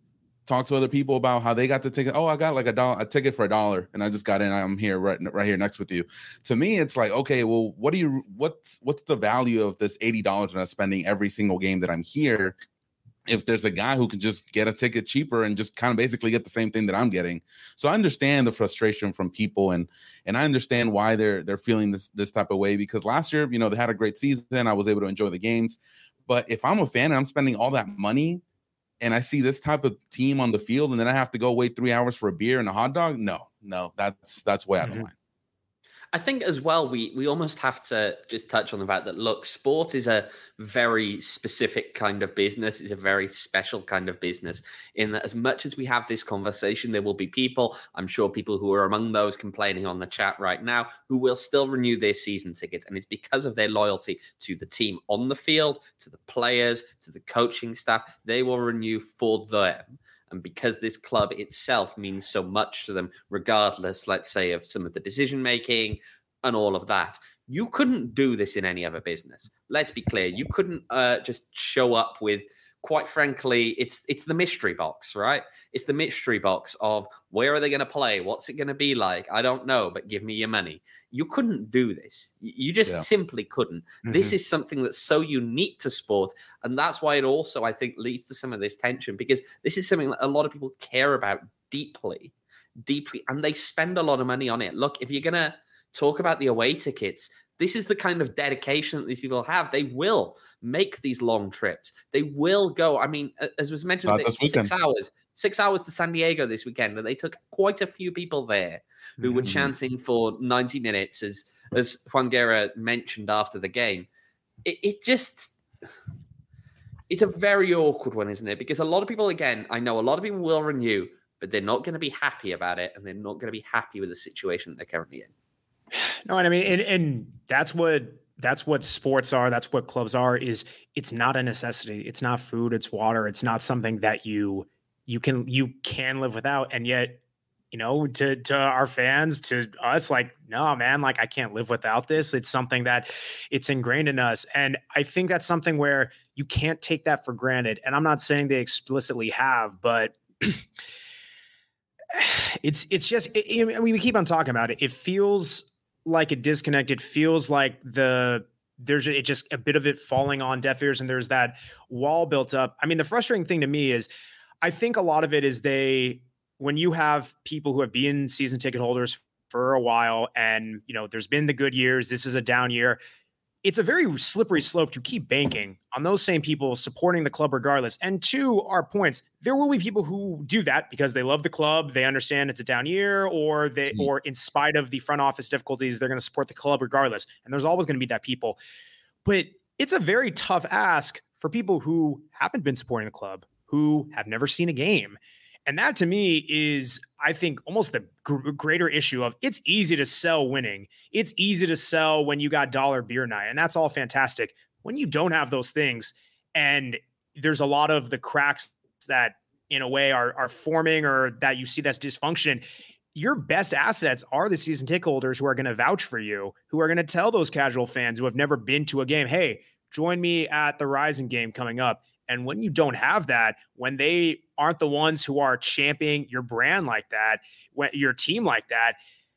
Speaker 1: talk to other people about how they got the ticket. Oh, I got like a dollar, a ticket for a dollar, and I just got in. I'm here right, right here next with you. To me, it's like, okay, well, what do you, what's, what's the value of this eighty dollars that I'm spending every single game that I'm here? If there's a guy who can just get a ticket cheaper and just kind of basically get the same thing that I'm getting. So I understand the frustration from people, and and I understand why they're they're feeling this this type of way, because last year, you know, they had a great season. I was able to enjoy the games. But if I'm a fan and I'm spending all that money and I see this type of team on the field and then I have to go wait three hours for a beer and a hot dog, no, no, that's that's way out of line.
Speaker 5: I think as well, we we almost have to just touch on the fact that, look, sport is a very specific kind of business. It's a very special kind of business in that as much as we have this conversation, there will be people, I'm sure people who are among those complaining on the chat right now, who will still renew their season tickets. And it's because of their loyalty to the team on the field, to the players, to the coaching staff. They will renew for them. And because this club itself means so much to them, regardless, let's say, of some of the decision-making and all of that, you couldn't do this in any other business. Let's be clear. You couldn't uh, just show up with, quite frankly, it's it's the mystery box, right? It's the mystery box of where are they going to play? What's it going to be like? I don't know, but give me your money. You couldn't do this. You just yeah. simply couldn't. Mm-hmm. This is something that's so unique to sport. And that's why it also, I think, leads to some of this tension, because this is something that a lot of people care about deeply, deeply, and they spend a lot of money on it. Look, if you're going to talk about the away tickets, this is the kind of dedication that these people have. They will make these long trips. They will go. I mean, as was mentioned, six weekend. hours, six hours to San Diego this weekend. And they took quite a few people there who mm-hmm. were chanting for ninety minutes, as as Juan Guerra mentioned after the game. It, it just, it's a very awkward one, isn't it? Because a lot of people, again, I know a lot of people will renew, but they're not going to be happy about it. And they're not going to be happy with the situation that they're currently in.
Speaker 2: No, and I mean, and, and that's what that's what sports are. That's what clubs are. Is it's not a necessity. It's not food. It's water. It's not something that you you can you can live without. And yet, you know, to to our fans, to us, like, no, man, like I can't live without this. It's something that it's ingrained in us, and I think that's something where you can't take that for granted. And I'm not saying they explicitly have, but. It's it's just it, I mean, we keep on talking about it. It feels like a disconnect. It feels like the there's it just a bit of it falling on deaf ears, and there's that wall built up. I mean, the frustrating thing to me is I think a lot of it is they when you have people who have been season ticket holders for a while, and you know there's been the good years. This is a down year. It's a very slippery slope to keep banking on those same people supporting the club regardless. And to our points, there will be people who do that because they love the club, they understand it's a down year, or they, mm-hmm. or in spite of the front office difficulties, they're going to support the club regardless. And there's always going to be that people. But it's a very tough ask for people who haven't been supporting the club, who have never seen a game. And that to me is, I think, almost the gr- greater issue of it's easy to sell winning. It's easy to sell when you got dollar beer night, and that's all fantastic. When you don't have those things, and there's a lot of the cracks that in a way are, are forming, or that you see that's dysfunction, your best assets are the season ticket holders who are going to vouch for you, who are going to tell those casual fans who have never been to a game, hey, join me at the Rising game coming up. And when you don't have that, when they aren't the ones who are championing your brand like that, when your team like that,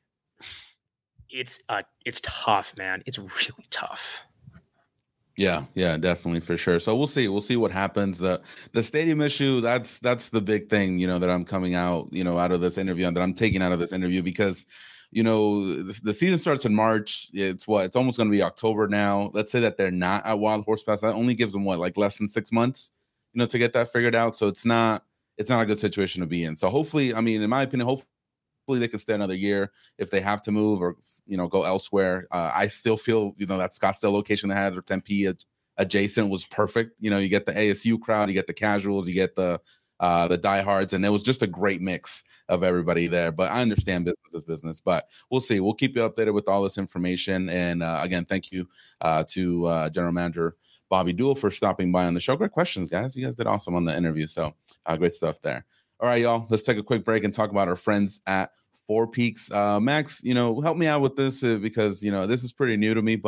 Speaker 2: it's uh, it's tough, man. It's really tough.
Speaker 1: Yeah, yeah, definitely, for sure. So we'll see. We'll see what happens. The the stadium issue, that's that's the big thing, you know, that I'm coming out, you know, out of this interview, and that I'm taking out of this interview, because you know, the, the season starts in March. It's what, it's almost going to be October now. Let's say that they're not at Wild Horse Pass. That only gives them what, like less than six months, you know, to get that figured out. So it's not, it's not a good situation to be in. So hopefully, I mean, in my opinion, hopefully they can stay another year if they have to move or, you know, go elsewhere. Uh, I still feel, you know, that Scottsdale location they had, or Tempe adjacent, was perfect. You know, you get the A S U crowd, you get the casuals, you get the, uh, the diehards, and it was just a great mix of everybody there. But I understand business is business, but we'll see. We'll keep you updated with all this information. And uh, again, thank you uh, to uh, General Manager Bobby Dool for stopping by on the show. Great questions, guys. You guys did awesome on the interview. So uh, great stuff there. All right, y'all, let's take a quick break and talk about our friends at Four Peaks. Uh, Max, you know, help me out with this uh, because, you know, this is pretty new to me, but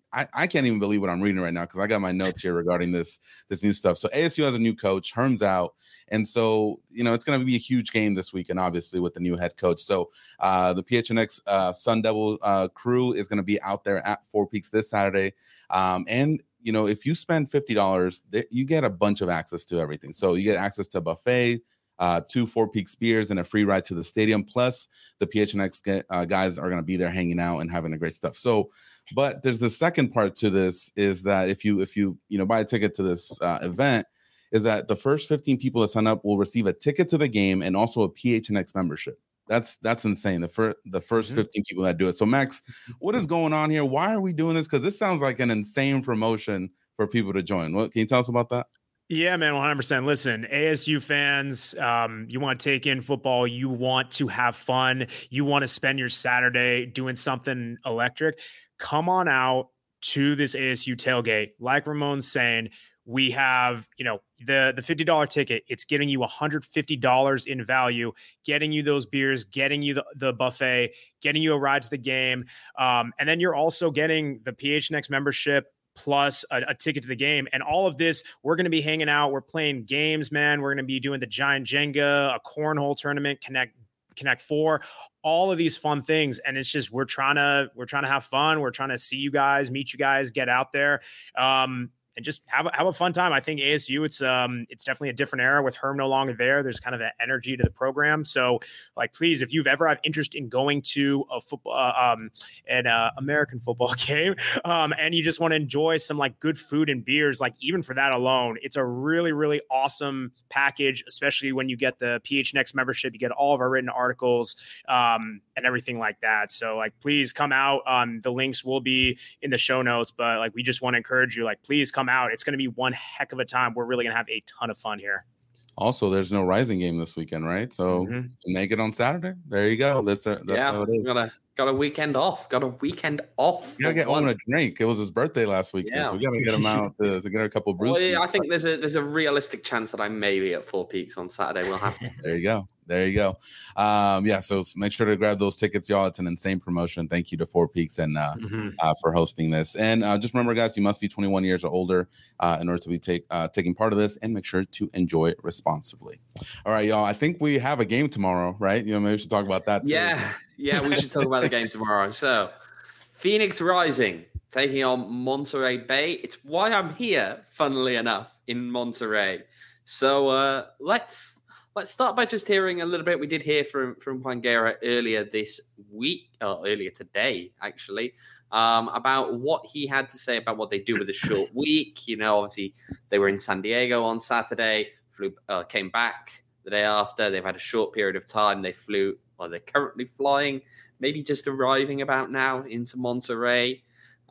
Speaker 1: I, I can't even believe what I'm reading right now because I got my notes here regarding this this new stuff. So A S U has a new coach, Herm's out, and so you know it's going to be a huge game this weekend, obviously with the new head coach. So uh, the P H N X uh, Sun Devil uh, crew is going to be out there at Four Peaks this Saturday, um, and you know if you spend fifty dollars, you get a bunch of access to everything. So you get access to a buffet. Uh, two Four Peaks beers and a free ride to the stadium. Plus, the P H N X uh, guys are going to be there hanging out and having a great stuff. So, but there's the second part to this is that if you if you you know buy a ticket to this uh, event, is that the first fifteen people that sign up will receive a ticket to the game and also a P H N X membership. That's that's insane. The first the first mm-hmm. fifteen people that do it. So, Max, what is going on here? Why are we doing this? Because this sounds like an insane promotion for people to join. What can you tell us about that?
Speaker 2: Yeah, man, one hundred percent. Listen, A S U fans, um, you want to take in football. You want to have fun. You want to spend your Saturday doing something electric. Come on out to this A S U tailgate. Like Ramon's saying, we have, you know, the, the fifty dollars ticket. It's getting you one hundred fifty dollars in value, getting you those beers, getting you the, the buffet, getting you a ride to the game. Um, and then you're also getting the P H N X membership, plus a, a ticket to the game. And all of this, we're going to be hanging out. We're playing games, man. We're going to be doing the giant Jenga, a cornhole tournament, Connect Connect Four, all of these fun things. And it's just, we're trying to, we're trying to have fun. We're trying to see you guys, meet you guys, get out there. Um, and just have a, have a fun time. I think A S U, it's um it's definitely a different era with Herm no longer there. There's kind of that energy to the program. So, like, please, if you've ever had interest in going to a football, uh, um, an uh, American football game, um, and you just want to enjoy some like good food and beers, like even for that alone, it's a really really awesome package. Especially when you get the P H N X membership, you get all of our written articles um, and everything like that. So, like, please come out. Um, the links will be in the show notes, but like, we just want to encourage you, like, please come out. It's going to be one heck of a time. We're really going to have a ton of fun here.
Speaker 1: Also, there's no Rising game this weekend, right? So mm-hmm. make it on Saturday. There you go. That's, a, that's
Speaker 5: yeah,
Speaker 1: how it is.
Speaker 5: Got a, got a weekend off. Got a weekend off.
Speaker 1: You got to get Owen a drink. It was his birthday last weekend, yeah. so we got to get him out to, to get a couple of brews.
Speaker 5: Well, yeah, I think there's a there's a realistic chance that I may be at Four Peaks on Saturday. We'll have to.
Speaker 1: There you go. There you go. Um, yeah, so make sure to grab those tickets, y'all. It's an insane promotion. Thank you to Four Peaks and uh, mm-hmm. uh, for hosting this. And uh, just remember, guys, you must be twenty-one years or older uh, in order to be take, uh, taking part of this, and make sure to enjoy it responsibly. All right, y'all. I think we have a game tomorrow, right? You know, maybe we should talk about that too.
Speaker 5: Yeah, yeah, we should talk about the game tomorrow. So, Phoenix Rising taking on Monterey Bay. It's why I'm here, funnily enough, in Monterey. So uh, let's. Let's start by just hearing a little bit. We did hear from, from Juan Guerra earlier this week, or earlier today, actually, um, about what he had to say about what they do with a short week. You know, obviously, they were in San Diego on Saturday, flew, uh, came back the day after. They've had a short period of time. They flew, or they're currently flying, maybe just arriving about now into Monterey.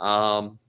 Speaker 5: Um,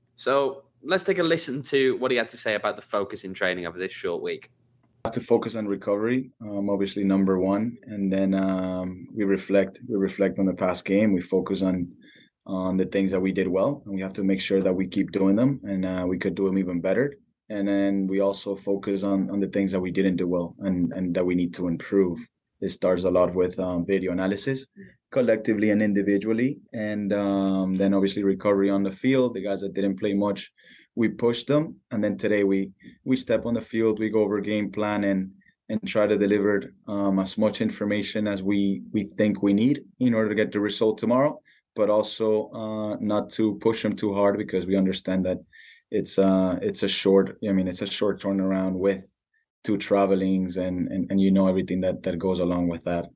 Speaker 5: so let's take a listen to what he had to say about the focus in training over this short week.
Speaker 6: To focus on recovery, um, obviously number one, and then um, we reflect. We reflect on the past game. We focus on on the things that we did well, and we have to make sure that we keep doing them, and uh, we could do them even better. And then we also focus on on the things that we didn't do well, and and that we need to improve. It starts a lot with um, video analysis, collectively and individually, and um, then obviously recovery on the field. The guys that didn't play much, we pushed them, and then today we we step on the field, we go over game plan and and try to deliver um, as much information as we we think we need in order to get the result tomorrow, but also uh, not to push them too hard because we understand that it's uh it's a short. I mean, it's a short turnaround with two travelings and and and you know everything that that goes along with that.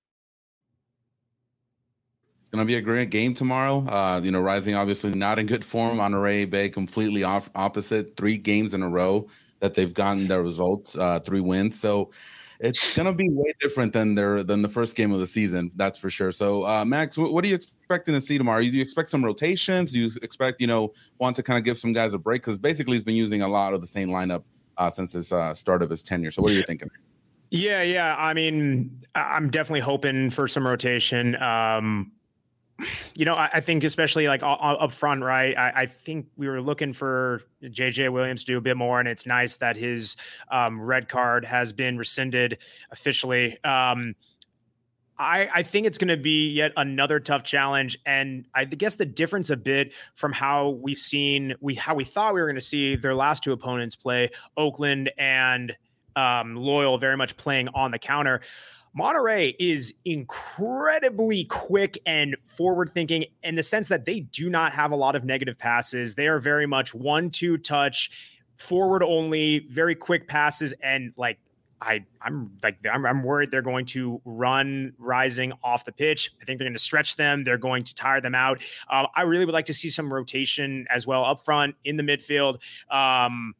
Speaker 1: Going to be a great game tomorrow. Uh, you know, Rising obviously not in good form. Monterey Bay completely off opposite. Three games in a row that they've gotten their results, uh, three wins. So it's going to be way different than their than the first game of the season. That's for sure. So uh, Max, what, what are you expecting to see tomorrow? Do you expect some rotations? Do you expect, you know, want to kind of give some guys a break? Because basically he's been using a lot of the same lineup uh, since his uh, start of his tenure. So what are you thinking?
Speaker 2: Yeah, yeah. I mean, I'm definitely hoping for some rotation. Um, You know, I, I think especially like up, up front, right? I, I think we were looking for J J Williams to do a bit more, and it's nice that his um, red card has been rescinded officially. Um, I, I think it's going to be yet another tough challenge. And I guess the difference a bit from how we've seen, we how we thought we were going to see their last two opponents play, Oakland and um, Loyal, very much playing on the counter. Monterrey is incredibly quick and forward-thinking in the sense that they do not have a lot of negative passes. They are very much one-two touch, forward only, very quick passes, and like I, I'm like I'm, I'm worried they're going to run Rising off the pitch. I think they're going to stretch them. They're going to tire them out. Um, I really would like to see some rotation as well up front in the midfield. Um,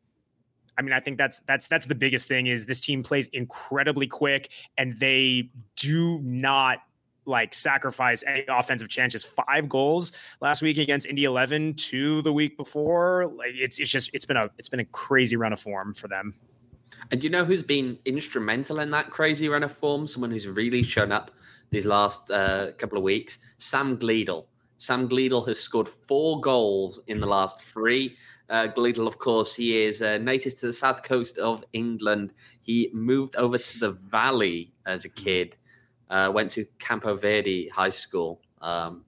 Speaker 2: I mean, I think that's that's that's the biggest thing is this team plays incredibly quick and they do not like sacrifice any offensive chances. Five goals last week against Indy eleven, two the week before. Like it's it's just it's been a it's been a crazy run of form for them.
Speaker 5: And you know who's been instrumental in that crazy run of form? Someone who's really shown up these last uh, couple of weeks? Sam Gleadle. Sam Gleadle has scored four goals in the last three. Uh, Gleadle, of course, he is a native to the south coast of England. He moved over to the Valley as a kid, uh, went to Campo Verde High School. Um,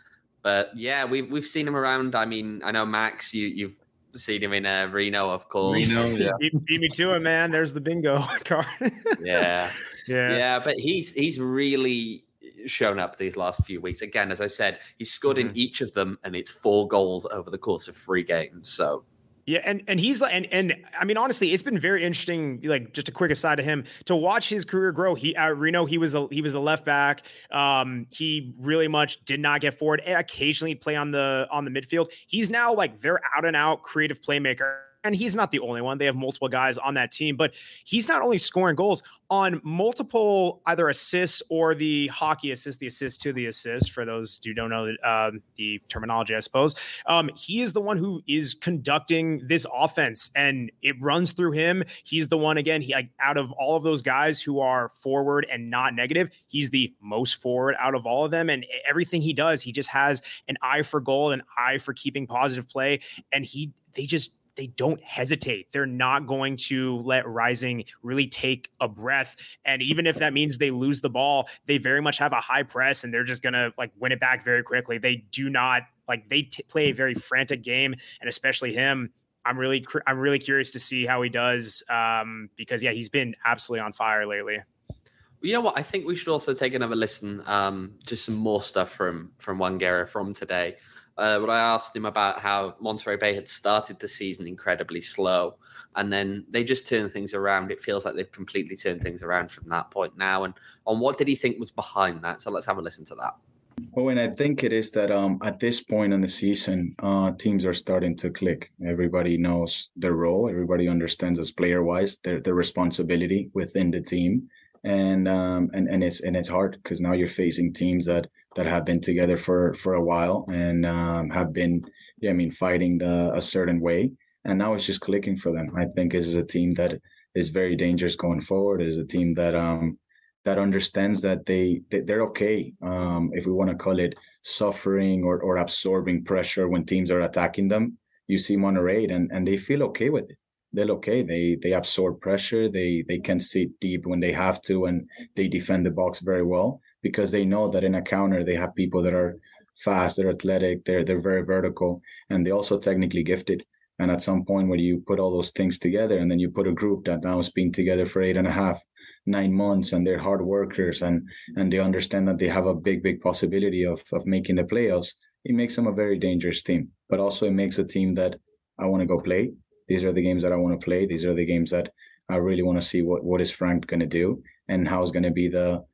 Speaker 5: but yeah, we've, we've seen him around. I mean, I know, Max, you, you've seen him in uh, Reno, of course.
Speaker 1: Reno, yeah.
Speaker 2: beat, beat me to it, man. There's the bingo card.
Speaker 5: yeah.
Speaker 2: Yeah.
Speaker 5: Yeah, but he's he's really shown up these last few weeks. Again, as I said, he's scored mm-hmm. in each of them, and it's four goals over the course of three games. So
Speaker 2: yeah, and and he's like, and and I mean, honestly, it's been very interesting. Like, just a quick aside to him to watch his career grow. He at Reno, he was a he was a left back. Um, he really much did not get forward. And occasionally play on the on the midfield. He's now like their out and out creative playmaker. And he's not the only one. They have multiple guys on that team, but he's not only scoring goals on multiple either assists or the hockey assist, the assist to the assist, for those who don't know um, the terminology, I suppose. Um, he is the one who is conducting this offense, and it runs through him. He's the one, again, he like, out of all of those guys who are forward and not negative, he's the most forward out of all of them. And everything he does, he just has an eye for goal, an eye for keeping positive play. And he, they just, they don't hesitate. They're not going to let Rising really take a breath. And even if that means they lose the ball, they very much have a high press and they're just going to like win it back very quickly. They do not like, they t- play a very frantic game, and especially him. I'm really, I'm really curious to see how he does um, because yeah, he's been absolutely on fire lately.
Speaker 5: You know what? I think we should also take another listen. Um, just some more stuff from, from Wangera from today. Uh, but I asked him about how Monterrey Bay had started the season incredibly slow, and then they just turned things around. It feels like they've completely turned things around from that point now. And on what did he think was behind that? So let's have a listen to that.
Speaker 6: Oh, and I think it is that um, at this point in the season, uh, teams are starting to click. Everybody knows their role. Everybody understands as player-wise their their responsibility within the team. And um and, and it's and it's hard because now you're facing teams that that have been together for for a while and um have been yeah I mean fighting the a certain way, and now it's just clicking for them. I think this is a team that is very dangerous going forward. It is a team that um that understands that they, they they're okay um if we want to call it suffering or or absorbing pressure when teams are attacking them. You see Monterrey and and they feel okay with it. They're okay. They they absorb pressure. They they can sit deep when they have to, and they defend the box very well because they know that in a counter they have people that are fast, they're athletic, they're they're very vertical, and they also technically gifted. And at some point when you put all those things together, and then you put a group that now has been together for eight and a half, nine months, and they're hard workers, and and they understand that they have a big big possibility of of making the playoffs. It makes them a very dangerous team, but also it makes a team that I want to go play. These are the games that I want to play. These are the games that I really want to see what, what is Frank going to do and how is going to be the,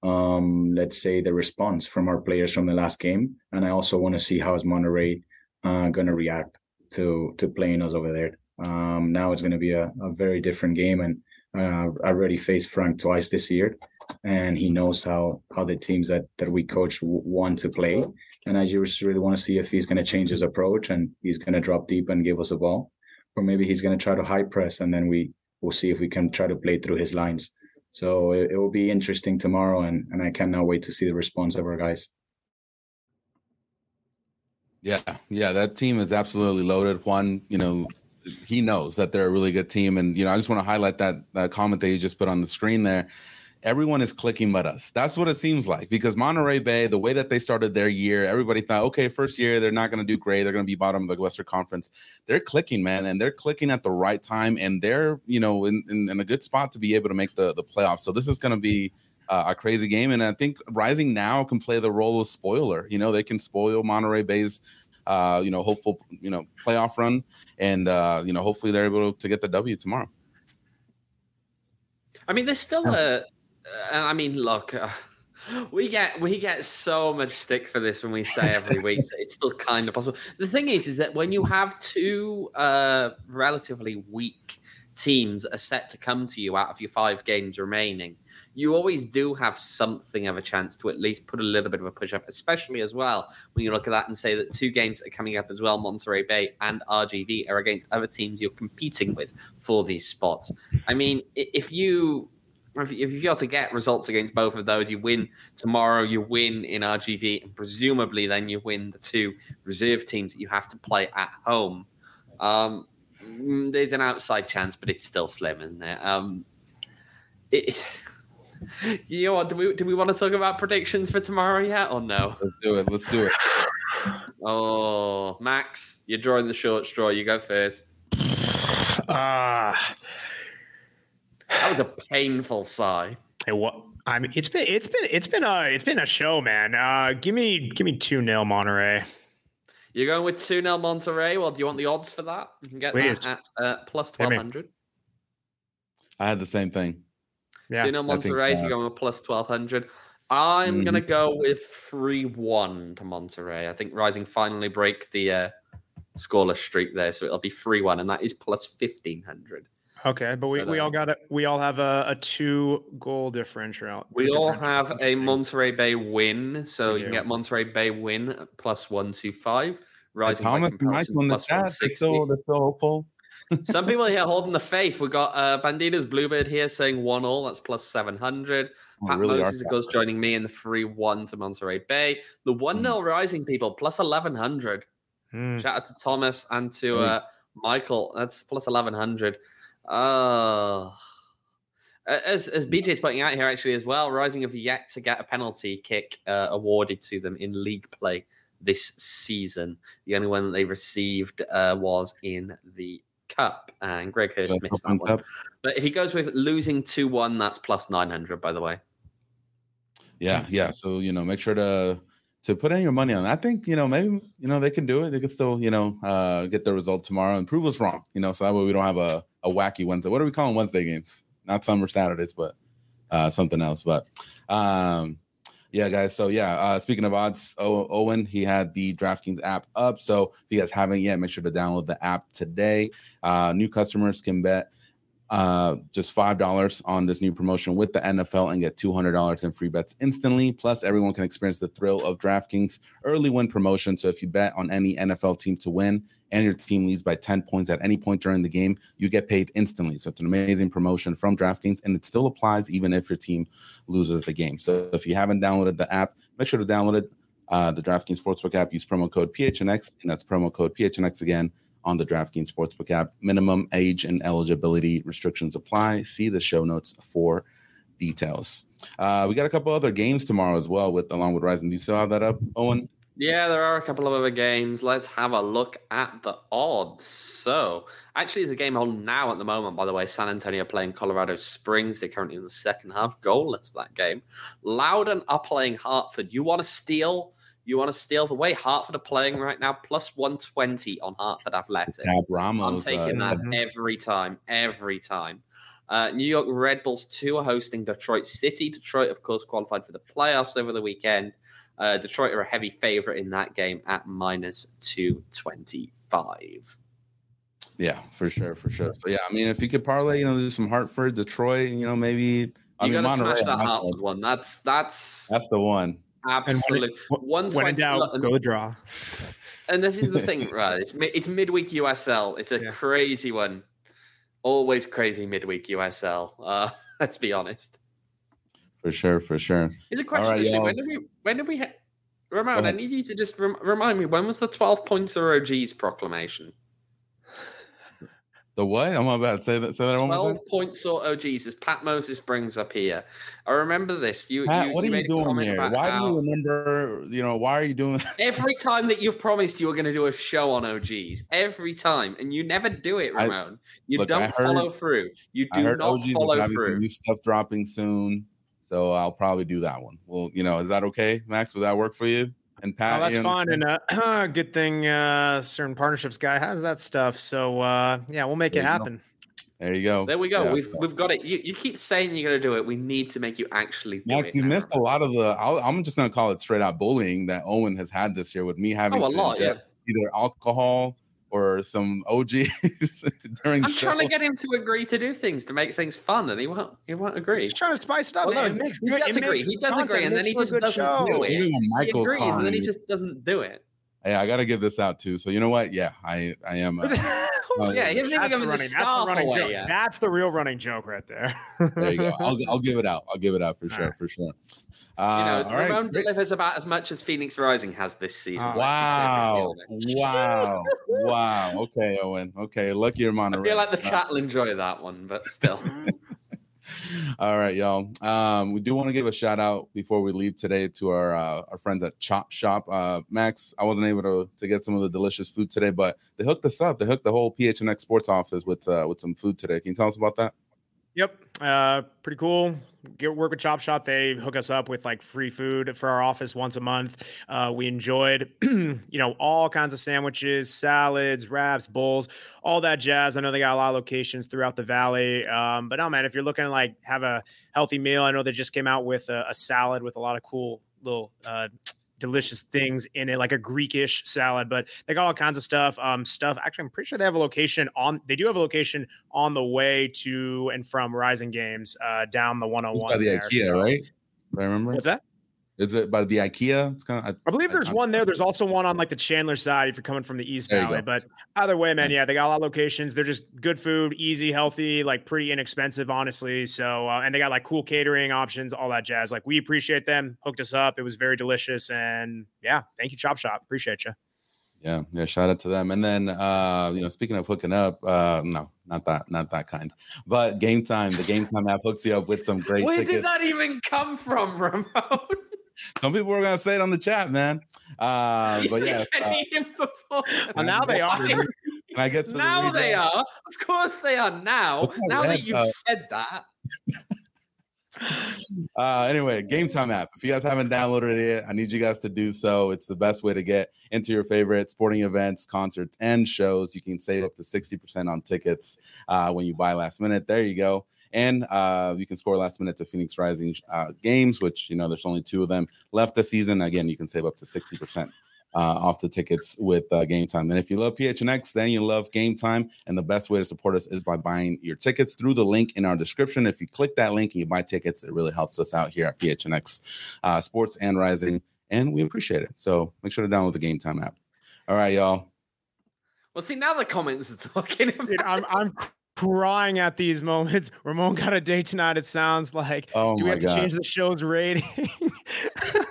Speaker 6: um, let's say, the response from our players from the last game. And I also want to see how is Monterrey uh, going to react to to playing us over there. Um, now it's going to be a, a very different game. And uh, I already faced Frank twice this year. And he knows how how the teams that, that we coach w- want to play. And I just really want to see if he's going to change his approach and he's going to drop deep and give us a ball. Or maybe he's going to try to high press, and then we will see if we can try to play through his lines. So it, it will be interesting tomorrow, and, and I cannot wait to see the response of our guys.
Speaker 1: Yeah, yeah, that team is absolutely loaded. Juan, you know, he knows that they're a really good team. And, you know, I just want to highlight that that comment that you just put on the screen there. everyone is clicking but us. That's what it seems like, because Monterey Bay, the way that they started their year, everybody thought, okay, first year, they're not going to do great. They're going to be bottom of the Western Conference. They're clicking, man, and they're clicking at the right time, and they're, you know, in, in, in a good spot to be able to make the, the playoffs. So this is going to be uh, a crazy game, and I think Rising now can play the role of spoiler. You know, they can spoil Monterey Bay's, uh, you know, hopeful, you know, playoff run, and, uh, you know, hopefully they're able to get the W tomorrow.
Speaker 5: I mean, there's still a... And I mean, look, uh, we get we get so much stick for this when we say every week that it's still kind of possible. The thing is, is that when you have two uh, relatively weak teams that are set to come to you out of your five games remaining, you always do have something of a chance to at least put a little bit of a push up, especially as well when you look at that and say that two games that are coming up as well, Monterey Bay and R G V, are against other teams you're competing with for these spots. I mean, if you... If you got to get results against both of those, you win tomorrow, you win in R G V, and presumably then you win the two reserve teams that you have to play at home. Um, there's an outside chance, but it's still slim, isn't it? Um, it you know what? Do we do we want to talk about predictions for tomorrow yet, or no?
Speaker 1: Let's do it. Let's do it.
Speaker 5: Oh, Max, you're drawing the short straw. You go first.
Speaker 2: Ah. Uh...
Speaker 5: That was a painful sigh.
Speaker 2: Hey, what? I mean, it's been it's been it's been a it's been a show, man. Uh, give me give me two nil Monterey.
Speaker 5: You're going with two nil Monterey. Well, do you want the odds for that? You can get
Speaker 2: Please.
Speaker 5: that at uh, plus twelve hundred.
Speaker 1: I had the same thing.
Speaker 5: Yeah, two nil Monterey. So you're going with plus twelve hundred. I'm mm-hmm. gonna go with three one to Monterey. I think Rising finally break the uh, scoreless streak there, so it'll be three one, and that is plus fifteen hundred.
Speaker 2: Okay, but we, but, we all got it. We all have a, a two goal differential.
Speaker 5: We
Speaker 2: differential.
Speaker 5: all have a Monterey Bay win, so you can get Monterey Bay win plus one two five. Rising
Speaker 1: hey, Thomas, nice on the chat. They're so, they're so hopeful.
Speaker 5: Some people here holding the faith. We got uh, Banditas Bluebird here saying one all. That's plus seven hundred.
Speaker 1: Oh,
Speaker 5: Pat
Speaker 1: really
Speaker 5: Moses goes joining me in the three one to Monterey Bay. The one nil mm. Rising people plus eleven hundred. Mm. Shout out to Thomas and to uh, Michael. That's plus eleven hundred. Uh, as as B J's pointing out here, actually, as well, Rising have yet to get a penalty kick uh, awarded to them in league play this season. The only one that they received uh, was in the Cup, and Greg Hurst that's missed that one. Up. But if he goes with losing two one, that's plus nine hundred, by the way.
Speaker 1: Yeah, yeah. So, you know, make sure to to put in your money on that. I think, you know, maybe, you know, they can do it. They can still, you know, uh, get the result tomorrow and prove us wrong, you know, so that way we don't have a, a wacky Wednesday. What are we calling Wednesday games? Not summer Saturdays, but uh, something else. But um, yeah, guys. So yeah, uh, speaking of odds, o- Owen, he had the DraftKings app up. So if you guys haven't yet, make sure to download the app today. Uh, new customers can bet uh, just five dollars on this new promotion with the N F L and get two hundred dollars in free bets instantly. Plus, everyone can experience the thrill of DraftKings early win promotion. So if you bet on any N F L team to win and your team leads by ten points at any point during the game, you get paid instantly. So it's an amazing promotion from DraftKings, and it still applies even if your team loses the game. So if you haven't downloaded the app, make sure to download it. Uh, the DraftKings Sportsbook app, use promo code P H N X, and that's promo code P H N X again on the DraftKings Sportsbook app. Minimum age and eligibility restrictions apply. See the show notes for details. Uh, we got a couple other games tomorrow as well, with along with Rising. Do you still have that up, Owen?
Speaker 5: Yeah, there are a couple of other games. Let's have a look at the odds. So, actually, there's a game on now at the moment, by the way. San Antonio playing Colorado Springs. They're currently in the second half. Goalless, that game. Loudon are playing Hartford. You want to steal? You want to steal the way Hartford are playing right now? Plus one twenty on Hartford Athletic.
Speaker 1: Yeah, Ramos,
Speaker 5: I'm taking uh, that every time, every time. Uh, New York Red Bulls two are hosting Detroit City. Detroit, of course, qualified for the playoffs over the weekend. Uh, Detroit are a heavy favorite in that game at minus two twenty-five.
Speaker 1: Yeah, for sure, for sure. So, yeah, I mean, if you could parlay, you know, do some Hartford, Detroit, you know, maybe. I
Speaker 5: you
Speaker 1: mean,
Speaker 5: got to
Speaker 1: Monterey,
Speaker 5: smash that Hartford one. That's, that's,
Speaker 1: that's the one.
Speaker 5: Absolutely.
Speaker 2: When, when in doubt, go draw.
Speaker 5: And this is the thing, right? It's, it's midweek U S L. It's a yeah. crazy one. Always crazy midweek U S L. Uh, let's be honest.
Speaker 1: For sure, for sure.
Speaker 5: Here's a question. Right, when did we? When did we? Ha- Ramon, I need you to just rem- remind me. When was the twelve points or O Gs proclamation?
Speaker 1: The what? I'm about to say that. Say that one more time.
Speaker 5: twelve point sort O Gs, as Pat Moses brings up here. I remember this. You,
Speaker 1: Pat,
Speaker 5: you
Speaker 1: what
Speaker 5: you
Speaker 1: are you
Speaker 5: made a
Speaker 1: doing
Speaker 5: comment
Speaker 1: here?
Speaker 5: about
Speaker 1: Why
Speaker 5: how
Speaker 1: do you remember? You know, why are you doing?
Speaker 5: every time that you've promised you were going to do a show on O Gs, every time, and you never do it, Ramon. I, you
Speaker 1: look,
Speaker 5: don't
Speaker 1: heard,
Speaker 5: follow through. You do
Speaker 1: I heard
Speaker 5: not
Speaker 1: O Gs
Speaker 5: follow
Speaker 1: is having
Speaker 5: through.
Speaker 1: some new stuff dropping soon, so I'll probably do that one. Well, you know, is that okay, Max? Would that work for you? And Pat,
Speaker 2: oh, that's
Speaker 1: you
Speaker 2: fine. And uh, good thing uh, certain partnerships guy has that stuff. So uh, yeah, we'll make
Speaker 1: there
Speaker 2: it happen.
Speaker 1: Go. There you go.
Speaker 5: There we go.
Speaker 1: Yeah,
Speaker 5: we've
Speaker 1: so.
Speaker 5: we've got it. You, you keep saying you're going to do it. We need to make you actually do
Speaker 1: Max,
Speaker 5: it.
Speaker 1: you
Speaker 5: now,
Speaker 1: missed
Speaker 5: Ramon.
Speaker 1: a lot of the. I'll, I'm just going to call it straight out bullying that Owen has had this year with me having
Speaker 5: Oh, a
Speaker 1: to
Speaker 5: lot,
Speaker 1: ingest
Speaker 5: yeah.
Speaker 1: either alcohol or some O Gs during.
Speaker 5: I'm
Speaker 1: show.
Speaker 5: trying to get him to agree to do things to make things fun, and he won't. He won't agree.
Speaker 2: He's trying to spice it up.
Speaker 5: Well,
Speaker 2: man.
Speaker 5: no,
Speaker 2: it makes
Speaker 5: he
Speaker 2: good,
Speaker 5: does
Speaker 2: it
Speaker 5: agree.
Speaker 2: makes
Speaker 5: He does
Speaker 2: content,
Speaker 5: agree, and then he
Speaker 2: for a
Speaker 5: just
Speaker 2: good
Speaker 5: doesn't
Speaker 2: show.
Speaker 5: do it.
Speaker 1: Even when
Speaker 5: He
Speaker 1: Michael's
Speaker 5: agrees, and then he
Speaker 1: calling,
Speaker 5: just doesn't do it.
Speaker 1: Hey, I got to give this out too. So you know what? Yeah, I I am. Uh, uh,
Speaker 5: Yeah, he hasn't even given the
Speaker 2: running,
Speaker 5: scarf
Speaker 2: that's the running
Speaker 5: away
Speaker 2: joke.
Speaker 5: yet.
Speaker 2: That's the real running joke right there.
Speaker 1: There you go. I'll I'll give it out. I'll give it out for sure,
Speaker 2: right.
Speaker 1: for sure.
Speaker 5: You
Speaker 1: Uh,
Speaker 5: know,
Speaker 1: all right,
Speaker 5: Ramon
Speaker 1: great.
Speaker 5: delivers about as much as Phoenix Rising has this season.
Speaker 2: Oh,
Speaker 1: Wow,
Speaker 5: let's be perfectly honest.
Speaker 1: wow, wow. Okay, Owen. Okay, lucky you're
Speaker 5: I
Speaker 1: Monterey.
Speaker 5: feel like the
Speaker 1: Uh,
Speaker 5: chat will enjoy that one, but still.
Speaker 1: All right, y'all. Um, we do want to give a shout out before we leave today to our uh, our friends at Chop Shop. Uh, Max, I wasn't able to to get some of the delicious food today, but they hooked us up. They hooked the whole P H N X Sports office with uh, with some food today. Can you tell us about that?
Speaker 2: Yep. Uh, pretty cool. Get work with Chop Shop. They hook us up with like free food for our office once a month. Uh, we enjoyed, you know, all kinds of sandwiches, salads, wraps, bowls, all that jazz. I know they got a lot of locations throughout the valley. Um, but no, man, if you're looking to like have a healthy meal, I know they just came out with a, a salad with a lot of cool little, uh, delicious things in it, like a Greekish salad, but they got all kinds of stuff. Um, stuff. Actually, I'm pretty sure they have a location on. They do have a location on the way to and from Rising Games, uh, down the one oh one.
Speaker 1: It's by the
Speaker 2: there,
Speaker 1: IKEA,
Speaker 2: so.
Speaker 1: right? I remember.
Speaker 2: What's that?
Speaker 1: Is it by the IKEA? It's kind of.
Speaker 2: I believe there's
Speaker 1: I,
Speaker 2: one there. There's also one on like the Chandler side if you're coming from the East
Speaker 1: There you
Speaker 2: Valley.
Speaker 1: go.
Speaker 2: But either way, man,
Speaker 1: Nice.
Speaker 2: yeah, they got a lot of locations. They're just good food, easy, healthy, like pretty inexpensive, honestly. So, uh, and they got like cool catering options, all that jazz. Like we appreciate them. Hooked us up. It was very delicious. And yeah, thank you, Chop Shop. Appreciate you.
Speaker 1: Yeah, yeah. Shout out to them. And then, uh, you know, speaking of hooking up, uh, no, not that, not that kind. But Game Time, the Game Time app hooks you up with some great
Speaker 5: Where
Speaker 1: tickets.
Speaker 5: did that even come from, Ramon?
Speaker 1: Some people were gonna say it on the chat, man. Uh, but yeah, uh,
Speaker 2: Well, now they are.
Speaker 1: Can I get to
Speaker 5: now
Speaker 1: the
Speaker 5: they
Speaker 1: redraft?
Speaker 5: are. Of course they are now.
Speaker 1: What's that
Speaker 5: Now
Speaker 1: red,
Speaker 5: that you've
Speaker 1: uh,
Speaker 5: said that.
Speaker 1: Uh, anyway, Game Time app. If you guys haven't downloaded it yet, I need you guys to do so. It's the best way to get into your favorite sporting events, concerts, and shows. You can save up to sixty percent on tickets uh, when you buy last minute. There you go. And uh, you can score last minute to Phoenix Rising uh, games, which, you know, there's only two of them left this season. Again, you can save up to sixty percent. Uh, off the tickets with uh, Game Time. And if you love P H N X, then you love Game Time. And the best way to support us is by buying your tickets through the link in our description. If you click that link and you buy tickets, it really helps us out here at P H N X uh, Sports and Rising. And we appreciate it. So make sure to download the Game Time app. All right, y'all.
Speaker 5: Well, see, now the comments are talking about
Speaker 2: Dude, I'm, I'm crying at these moments. Ramon got a date tonight, it sounds like.
Speaker 1: Oh
Speaker 2: Do we
Speaker 1: my
Speaker 2: have
Speaker 1: God.
Speaker 2: to change the show's rating?